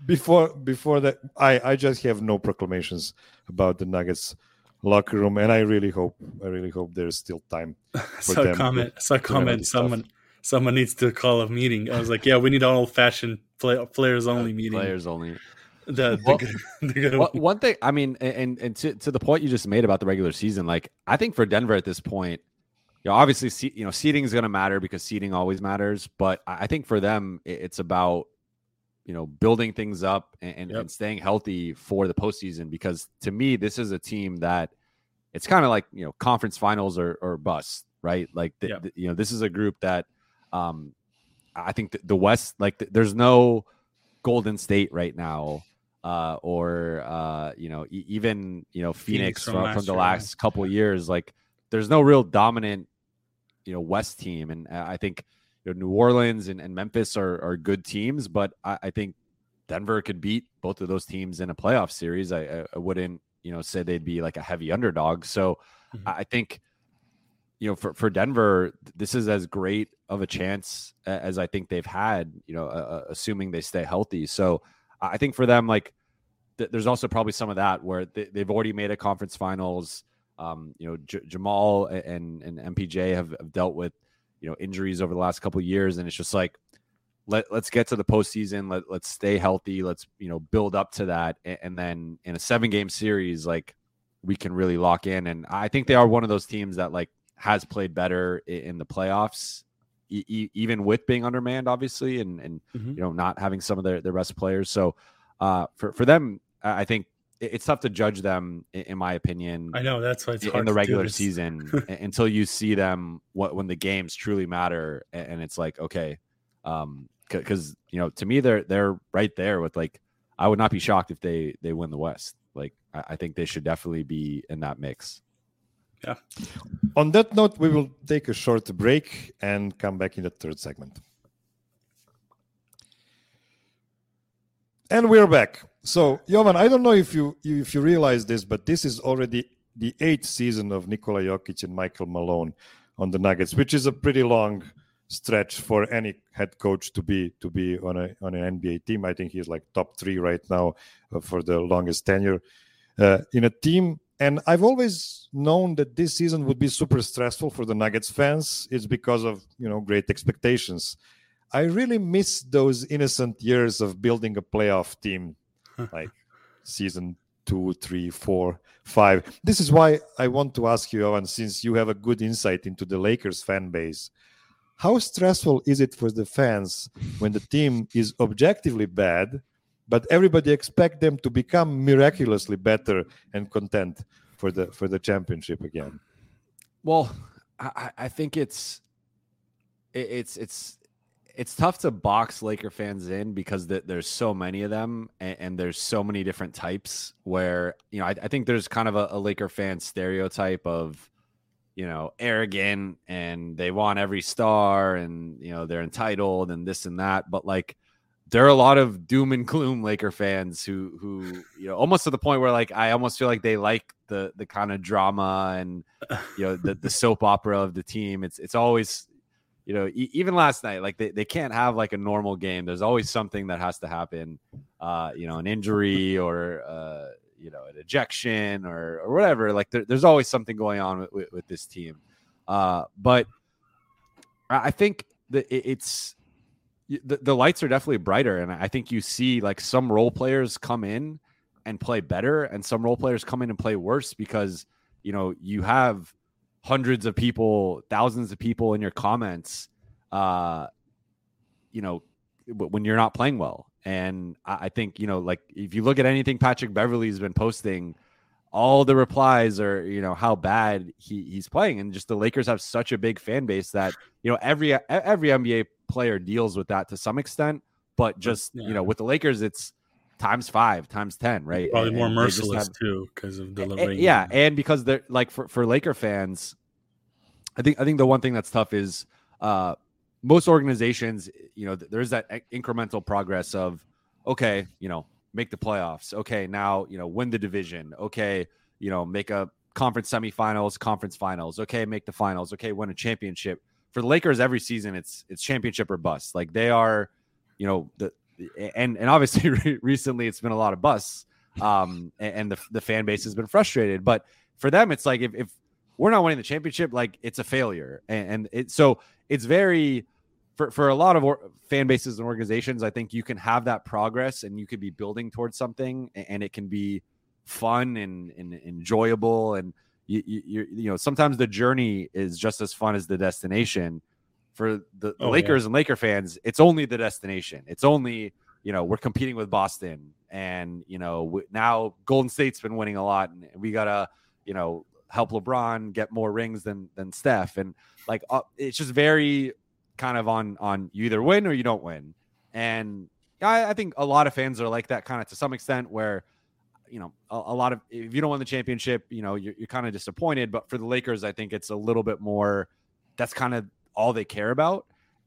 before before that, I I just have no proclamations about the Nuggets locker room, and I really hope I really hope there's still time for so them. comment, to, so comment. Someone stuff. someone needs to call a meeting. I was like, yeah, we need an old fashioned play, players only meeting. Players only. The, the well, good, the good well, one thing, I mean, and and to, to the point you just made about the regular season, like I think for Denver at this point, you know, obviously, you know, seeding is going to matter because seeding always matters. But I think for them, it's about, you know, building things up and, yep. and staying healthy for the postseason. Because to me, this is a team that it's kind of like, you know, conference finals or, or bust, right? Like, the, yep. the, you know, this is a group that um, I think the, the West, like, the, there's no Golden State right now. Uh, or uh, you know, e- even you know Phoenix, Phoenix from, from, from the last year. couple of years, like there's no real dominant, you know, West team, and I think you know, New Orleans and, and Memphis are, are good teams, but I, I think Denver could beat both of those teams in a playoff series. I, I wouldn't you know say they'd be like a heavy underdog. So mm-hmm. I think you know for for Denver, this is as great of a chance as I think they've had. You know, uh, assuming they stay healthy. So. I think for them, like, th- there's also probably some of that where they, they've already made a conference finals. Um, you know, J- Jamal and, and M P J have, have dealt with, you know, injuries over the last couple of years. And it's just like, let, let's get to the postseason. Let, let's stay healthy. Let's, you know, build up to that. And, and then in a seven game series, like, we can really lock in. And I think they are one of those teams that, like, has played better in, in the playoffs. E- even with being undermanned, obviously, and, and mm-hmm. you know, not having some of their, their best players. So uh, for, for them, I think it's tough to judge them, in, in my opinion. I know that's why it's hard in the to regular do this. season until you see them what, when the games truly matter. And it's like, okay, um, because, you know, to me, they're, they're right there with, like, I would not be shocked if they, they win the West. Like, I, I think they should definitely be in that mix. Yeah. On that note, we will take a short break and come back in the third segment. And we're back. So, Jovan, I don't know if you if you realize this, but this is already the eighth season of Nikola Jokic and Michael Malone on the Nuggets, which is a pretty long stretch for any head coach to be to be on a on an N B A team. I think he's like top three right now uh, for the longest tenure uh, in a team. And I've always known that this season would be super stressful for the Nuggets fans. It's because of, you know, great expectations. I really miss those innocent years of building a playoff team, like season two, three, four, five. This is why I want to ask you, Owen, since you have a good insight into the Lakers fan base, how stressful is it for the fans when the team is objectively bad, but everybody expect them to become miraculously better and content for the for the championship again? Well, I, I think it's it, it's it's it's tough to box Laker fans in because the, there's so many of them and, and there's so many different types. Where you know I, I think there's kind of a, a Laker fan stereotype of you know arrogant and they want every star and you know they're entitled and this and that, but like. There are a lot of doom and gloom Laker fans who, who, you know, almost to the point where like I almost feel like they like the the kind of drama and you know the, the soap opera of the team. It's it's always, you know, e- even last night, like they, they can't have like a normal game. There's always something that has to happen, uh, you know, an injury or uh, you know, an ejection or or whatever. Like there, there's always something going on with, with, with this team. Uh, but I think that it, it's. The, the lights are definitely brighter, and I think you see like some role players come in and play better, and some role players come in and play worse because you know you have hundreds of people, thousands of people in your comments, uh, you know, when you're not playing well. And I, I think you know, like if you look at anything Patrick Beverley's been posting, all the replies are you know how bad he, he's playing, and just the Lakers have such a big fan base that you know every every N B A player deals with that to some extent, but just yeah. you know with the Lakers it's times five, times ten, right? Probably and, more and merciless have, too because of the and, yeah, and because they're like for, for Laker fans, I think I think the one thing that's tough is uh, most organizations, you know, there's that incremental progress of okay, you know, make the playoffs. Okay, now you know win the division. Okay, you know, make a conference semifinals, conference finals. Okay, make the finals. Okay, win a championship. For the Lakers, every season it's it's championship or bust. Like they are, you know, the and and obviously re- recently it's been a lot of busts, um, and, and the the fan base has been frustrated. But for them, it's like if, if we're not winning the championship, like it's a failure, and, and it so it's very for for a lot of or, fan bases and organizations. I think you can have that progress, and you could be building towards something, and, and it can be fun and, and enjoyable, and you, you you know sometimes the journey is just as fun as the destination. For the, the oh, Lakers yeah. and Laker fans, it's only the destination. It's only, you know, we're competing with Boston, and you know w- now Golden State's been winning a lot, and we gotta, you know, help LeBron get more rings than than Steph, and like uh, it's just very kind of on on you either win or you don't win. And I, I think a lot of fans are like that kind of to some extent, where you know a, a lot of if you don't win the championship, you know you're, you're kind of disappointed. But for the Lakers, I think it's a little bit more. That's kind of all they care about.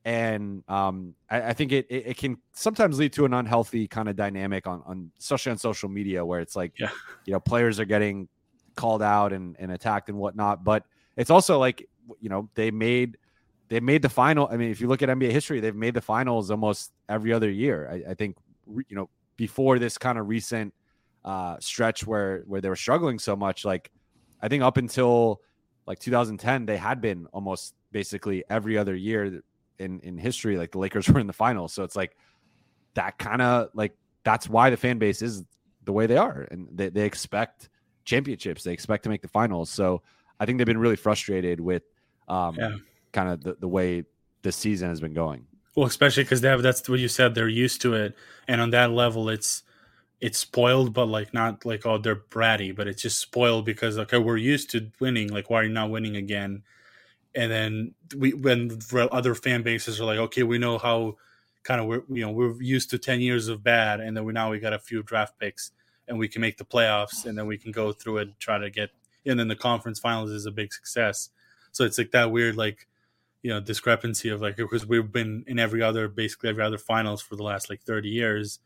And um, I, I think it, it it can sometimes lead to an unhealthy kind of dynamic on, on especially on social media, where it's like, yeah. you know, players are getting called out and, and attacked and whatnot. But it's also like, you know, they made they made the final. I mean, if you look at N B A history, they've made the finals almost every other year. I, I think, you know, before this kind of recent uh, stretch where where they were struggling so much, like I think up until like two thousand ten, they had been almost basically every other year in, in history, like the Lakers were in the finals. So it's like that kind of like, that's why the fan base is the way they are. And they, they expect championships. They expect to make the finals. So I think they've been really frustrated with um, yeah. kind of the, the way this season has been going. Well, especially because they have, that's what you said, they're used to it. And on that level, it's, it's spoiled, but like not like, oh, they're bratty, but it's just spoiled because, okay, we're used to winning. Like, why are you not winning again? And then we, when other fan bases are like, okay, we know how kind of, we're, you know, we're used to ten years of bad. And then we, now we got a few draft picks and we can make the playoffs, and then we can go through it, try to get, and then the conference finals is a big success. So it's like that weird, like, you know, discrepancy of like, because we've been in every other, basically every other finals for the last like thirty years.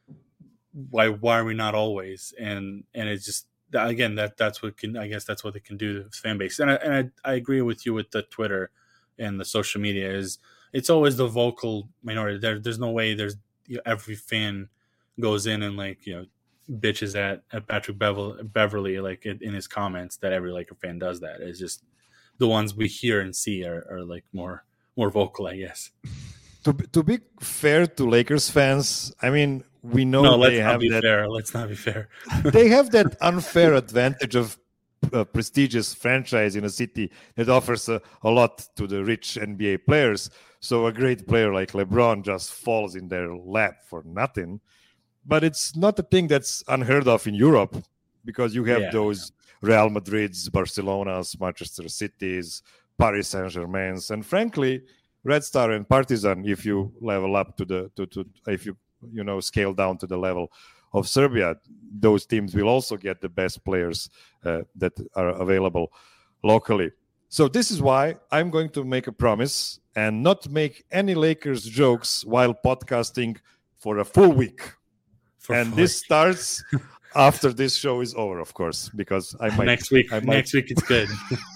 Why, why are we not always? And, and it's just, again, that that's what can, I guess that's what they can do to the fan base. And I, and I, I agree with you with the Twitter and the social media is it's always the vocal minority. There, there's no way there's, you know, every fan goes in and like, you know, bitches at, at Patrick Beverly, Beverly like in, in his comments that every Laker fan does that. It's just the ones we hear and see are, are like more, more vocal, I guess. To, to be fair to Lakers fans, I mean, we know no, they let's not have be that. Fair. Let's not be fair. They have that unfair advantage of a prestigious franchise in a city that offers a, a lot to the rich N B A players. So a great player like LeBron just falls in their lap for nothing. But it's not a thing that's unheard of in Europe, because you have Yeah. those Real Madrids, Barcelonas, Manchester Cities, Paris Saint-Germains, and frankly, Red Star and Partizan, if you level up to the to, to if you you know scale down to the level of Serbia, those teams will also get the best players uh, that are available locally. So this is why I'm going to make a promise and not make any Lakers jokes while podcasting for a full week. For and full this week. starts after this show is over, of course, because I might next week. I might, Next week it's good.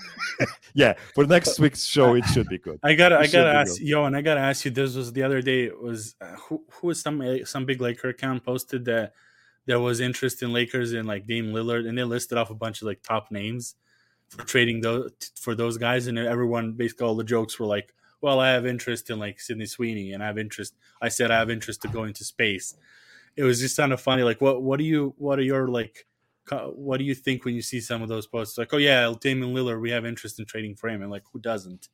yeah, for next week's show it should be good. I gotta, It I should gotta be ask, good. yo, and I gotta ask you. This was the other day. It was uh, who, who was some some big Laker account posted that there was interest in Lakers in like Dame Lillard, and they listed off a bunch of like top names for trading those for those guys, and everyone basically all the jokes were like, well, I have interest in like Sidney Sweeney, and I have interest. I said I have interest to go into space. It was just kind of funny. Like, what what do you what are your like what do you think when you see some of those posts? Like, oh yeah, Damian Lillard, we have interest in trading for him, and like, who doesn't?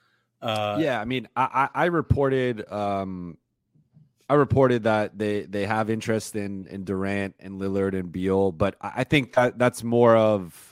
Uh, yeah, I mean, I, I reported, um, I reported that they they have interest in in Durant and Lillard and Beal, but I think that that's more of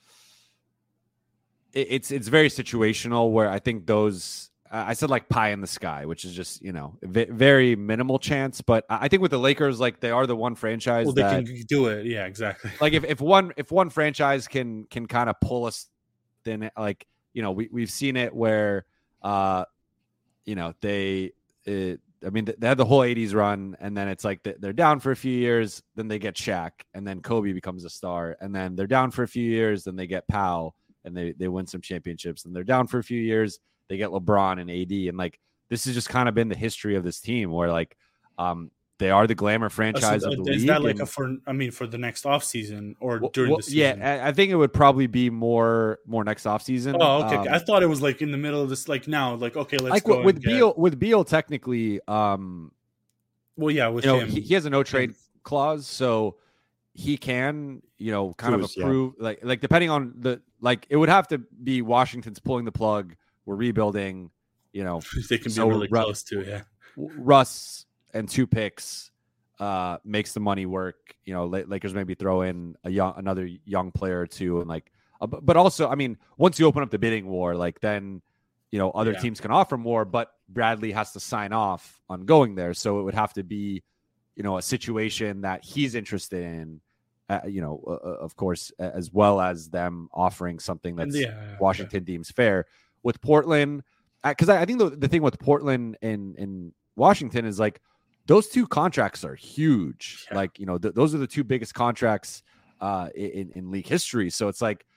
it, it's it's very situational. Where I think those I said like pie in the sky, which is just you know v- very minimal chance. But I think with the Lakers, like they are the one franchise well, they that can do it. Yeah, exactly. like if, if one if one franchise can can kind of pull us, then like you know we we've seen it where. Uh, you know, they, it, I mean, they had the whole eighties run, and then it's like they're down for a few years, then they get Shaq, and then Kobe becomes a star, and then they're down for a few years, then they get Powell, and they, they win some championships, and they're down for a few years, they get LeBron and A D, and like this has just kind of been the history of this team, where like, um, they are the glamour Uh, so, franchise uh, of the is league. that like and- a for? I mean, for the next off season or Well, during well, the season? yeah, I I think it would probably be more more next offseason. Oh, okay. Um, I thought it was like in the middle of this. Like now, like okay, let's like go with, with and get- Beal, with Beal, technically, um, Well, yeah, with you know, him, he, he has a no trade clause, so he can, you know, kind Choose, of yeah. approve, like, like depending on the, like, it would have to be Washington's pulling the plug. We're rebuilding, you know, they can be So really Ru- close to. Yeah, Russ and two picks uh, makes the money work. You know, La- Lakers maybe throw in a young, another young player or two, and like, uh, but but also, I mean, once you open up the bidding war, like then, you know, other Yeah. teams can offer more, but Bradley has to sign off on going there, so it would have to be, you know, a situation that he's interested in. Uh, you know, uh, uh, of course, a- as well as them offering something And that's yeah, yeah, Washington deems fair. With Portland, because I, I think the, the thing with Portland and, and Washington is like those two contracts are huge. Yeah. Like, you know, th- those are the two biggest contracts uh, in, in league history. So it's like,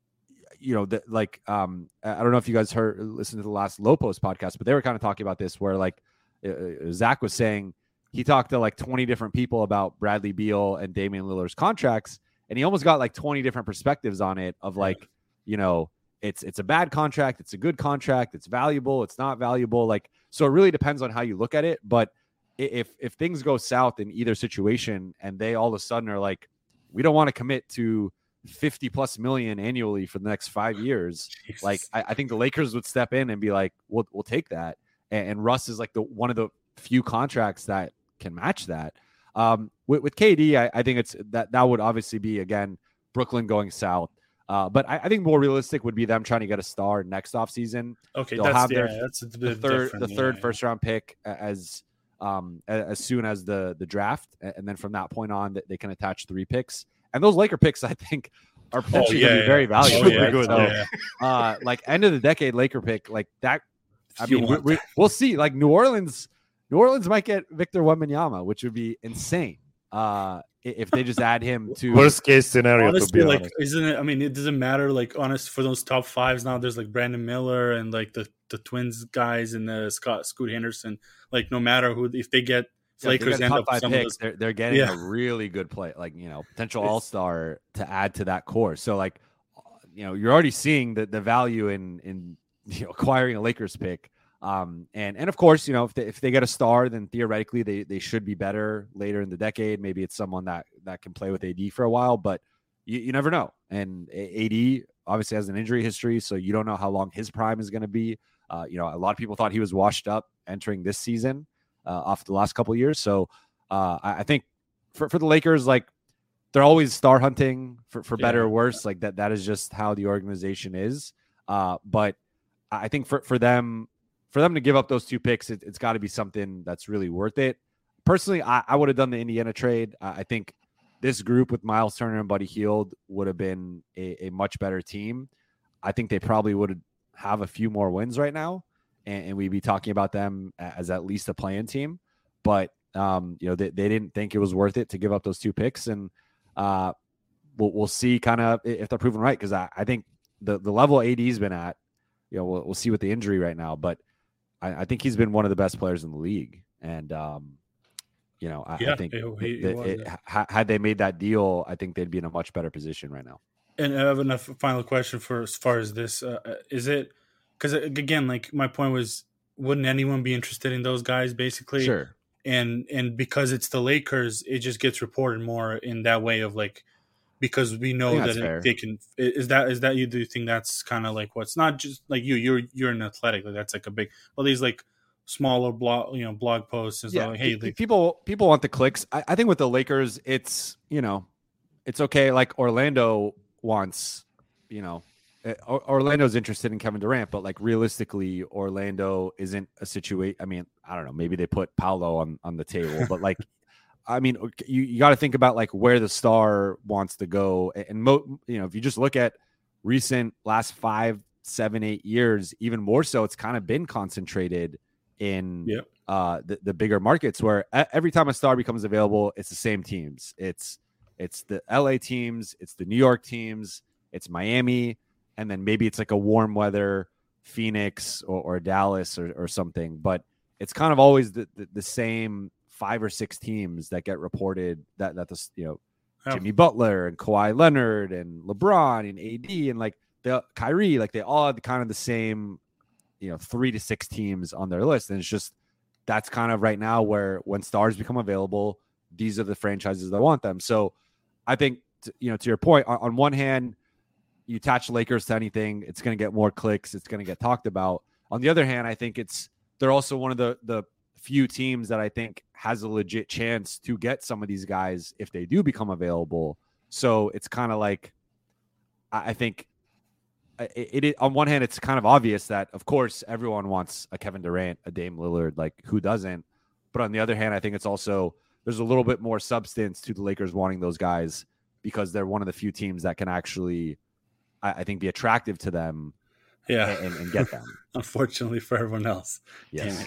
you know, the, like, um, I I don't know if you guys heard, listened to the last Lopos podcast, but they were kind of talking about this where like uh, uh, Zach was saying he talked to like twenty different people about Bradley Beal and Damian Lillard's contracts. And he almost got like twenty different perspectives on it of like, you know, it's, it's a bad contract. It's a good contract. It's valuable. It's not valuable. Like, so it really depends on how you look at it. But i- if, if things go south in either situation and they all of a sudden are like, we don't want to commit to fifty plus million annually for the next five years. Jesus. Like, I, I think the Lakers would step in and be like, we'll, we'll take that. And, and Russ is like the, one of the few contracts that can match that. Um, with, with K D, I, I think it's that, that would obviously be, again, Brooklyn going south. Uh, but I, I think more realistic would be them trying to get a star next offseason. okay, they'll that's have yeah, their- that's a The bit third, different, the third yeah, first round pick as um a- as soon as the the draft, and then from that point on, that they can attach three picks. And those Laker picks, I think, are potentially yeah, going to be very yeah. valuable. Oh, yeah, good, So, yeah. uh, like end of the decade Laker pick, like that. I You mean, we, want we, that. we'll see. Like New Orleans, New Orleans might get Victor Wembanyama, which would be insane. Uh, i- if they just add him to Worst case scenario, to Honestly, be like, honest. isn't it? I mean, it doesn't matter. Like, honest for those top fives now, there's like Brandon Miller and like the the Twins guys and the Scott Scoot Henderson. Like, no matter who, if they get if Yeah, they Lakers get end top up five some of picks, those, they're they're getting Yeah. a really good play, like, you know, potential It's- all star to add to that core. So like, you know, you're already seeing the the value in in you know acquiring a Lakers pick. Um, and and of course, you know, if they if they get a star, then theoretically they they should be better later in the decade. Maybe it's someone that that can play with A D for a while, but you, you never know. And A- AD obviously has an injury history, so you don't know how long his prime is going to be. Uh, you know, a lot of people thought he was washed up entering this season uh, off the last couple of years. So uh, I, I think for for the Lakers, like they're always star hunting for, for better Yeah. or worse. Like that that is just how the organization is. Uh, but I think for for them. For them to give up those two picks, it, it's got to be something that's really worth it. Personally, I, I would have done the Indiana trade. I, I think this group with Miles Turner and Buddy Hield would have been a, a much better team. I think they probably would have a few more wins right now, and, and we'd be talking about them as at least a play-in team. But um, you know, they, they didn't think it was worth it to give up those two picks, and uh, we'll we'll see kind of if they're proven right, because I, I think the the level A D's been at, you know, we'll, we'll see with the injury right now, but I, I think he's been one of the best players in the league, and um, you know, I, Yeah, I think he- he- he that was, it, yeah. ha- had they made that deal, I think they'd be in a much better position right now. And I have enough final question for as far as this. Uh, uh, is it because again, like my point was, wouldn't anyone be interested in those guys basically? Sure, And and because it's the Lakers, it just gets reported more in that way of like, because we I know think that that's it, fair. they can. Is that is that you do you think that's kind of like what's not just like you you're you're an athletic, like that's like a big, well, these like smaller blog, you know, blog posts is yeah. like, hey, pe- like, people people want the clicks. I, I think with the Lakers, it's you know, it's okay. Like Orlando wants, you know, uh, Or- Orlando's interested in Kevin Durant, but like realistically, Orlando isn't a situation. I mean, I don't know. Maybe they put Paolo on on the table, but like, I mean, you, you got to think about like where the star wants to go, and mo- you know, if you just look at recent last five, seven, eight years, even more so, it's kind of been concentrated in Yeah. uh, the, the bigger markets where e- every time a star becomes available, it's the same teams. It's it's the L A teams, it's the New York teams, it's Miami, and then maybe it's like a warm weather Phoenix or, or Dallas or, or something. But it's kind of always the, the, the same five or six teams that get reported that that the you know Oh. Jimmy Butler and Kawhi Leonard and LeBron and A D and like the Kyrie, like they all had kind of the same, you know, three to six teams on their list. And it's just, that's kind of right now where when stars become available, these are the franchises that want them. So I think, t- you know, to your point, on, on one hand, you attach Lakers to anything, it's going to get more clicks. It's going to get talked about. On the other hand, I think it's, they're also one of the, the few teams that I think has a legit chance to get some of these guys if they do become available. So it's kind of like, I, I think it, it, on one hand, it's kind of obvious that, of course, everyone wants a Kevin Durant, a Dame Lillard, like who doesn't? But on the other hand, I think it's also, there's a little bit more substance to the Lakers wanting those guys because they're one of the few teams that can actually, I, I think, be attractive to them. Yeah, and, and get them. Unfortunately for everyone else. Yes.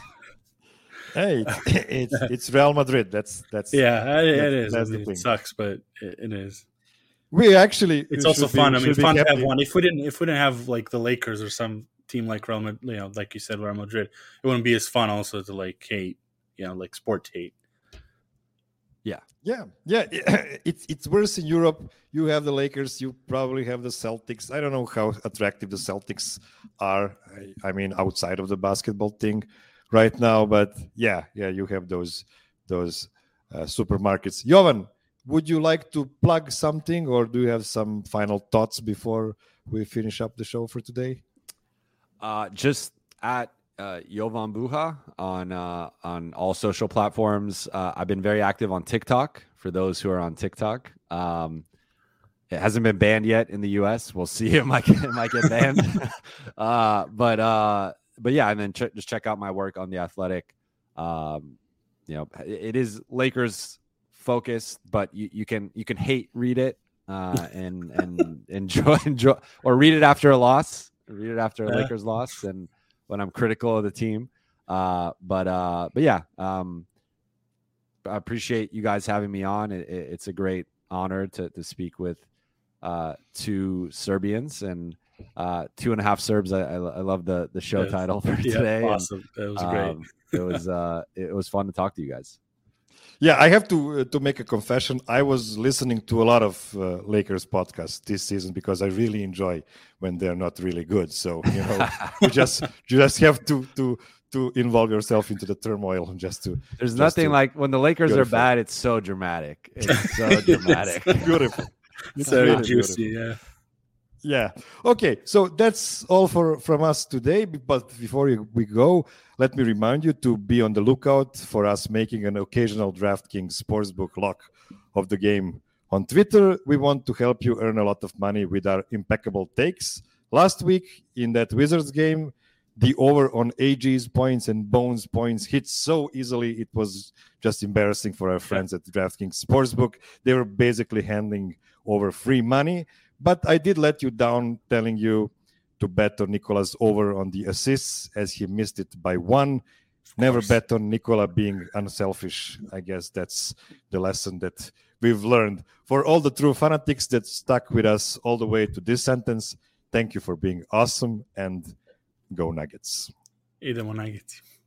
Hey, it's, it's it's Real Madrid. That's that's yeah, it, it is. That's I mean, the it thing. sucks, but it, it is. We actually It's should also be- fun. I mean, should be fun to have happy. one. If we didn't, if we didn't have like the Lakers or some team like Real Madrid, you know, like you said, Real Madrid, it wouldn't be as fun. Also to like hate, you know, like sport hate. Yeah, yeah. It's it's worse in Europe. You have the Lakers. You probably have the Celtics. I don't know how attractive the Celtics are. I, I mean, outside of the basketball thing, right now. But yeah, yeah. You have those those uh, supermarkets. Jovan, would you like to plug something, or do you have some final thoughts before we finish up the show for today? Uh, just at uh, Jovan Buha on uh, on all social platforms. Uh, I've been very active on TikTok. For those who are on TikTok, um, it hasn't been banned yet in the U S. We'll see. It might get, it might get banned. uh, but uh, but yeah, and then ch- just check out my work on The Athletic. Um, you know, it, it is Lakers focused, but you, you can you can hate read it uh, and and enjoy enjoy or read it after a loss. Read it after a Yeah. Lakers loss and when I'm critical of the team. Uh, but uh, but yeah, um, I appreciate you guys having me on. It, it, it's a great honor to to speak with uh, two Serbians and uh, two and a half Serbs. I, I, I love the the show Yes. title for Yeah, today. and, awesome. That was great. um, it was uh, it was fun to talk to you guys. Yeah, I have to uh, to make a confession. I was listening to a lot of uh, Lakers podcasts this season because I really enjoy when they're not really good. So you know, you just you just have to to to involve yourself into the turmoil just to. There's just nothing to- like when the Lakers Beautiful. are bad. It's so dramatic. It's so dramatic. beautiful. It's So really juicy. beautiful. Yeah. Yeah. Okay. So that's all for from us today. But before you- we go, let me remind you to be on the lookout for us making an occasional DraftKings Sportsbook lock of the game on Twitter. We want to help you earn a lot of money with our impeccable takes. Last week in that Wizards game, the over on A G's points and Bones points hit so easily. It was just embarrassing for our friends at DraftKings Sportsbook. They were basically handing over free money. But I did let you down telling you to bet on Nicola's over on the assists as he missed it by one. Never course. bet on Nicola being unselfish. I guess that's the lesson that we've learned. For all the true fanatics that stuck with us all the way to this sentence, thank you for being awesome and go Nuggets. Idemo Nuggets.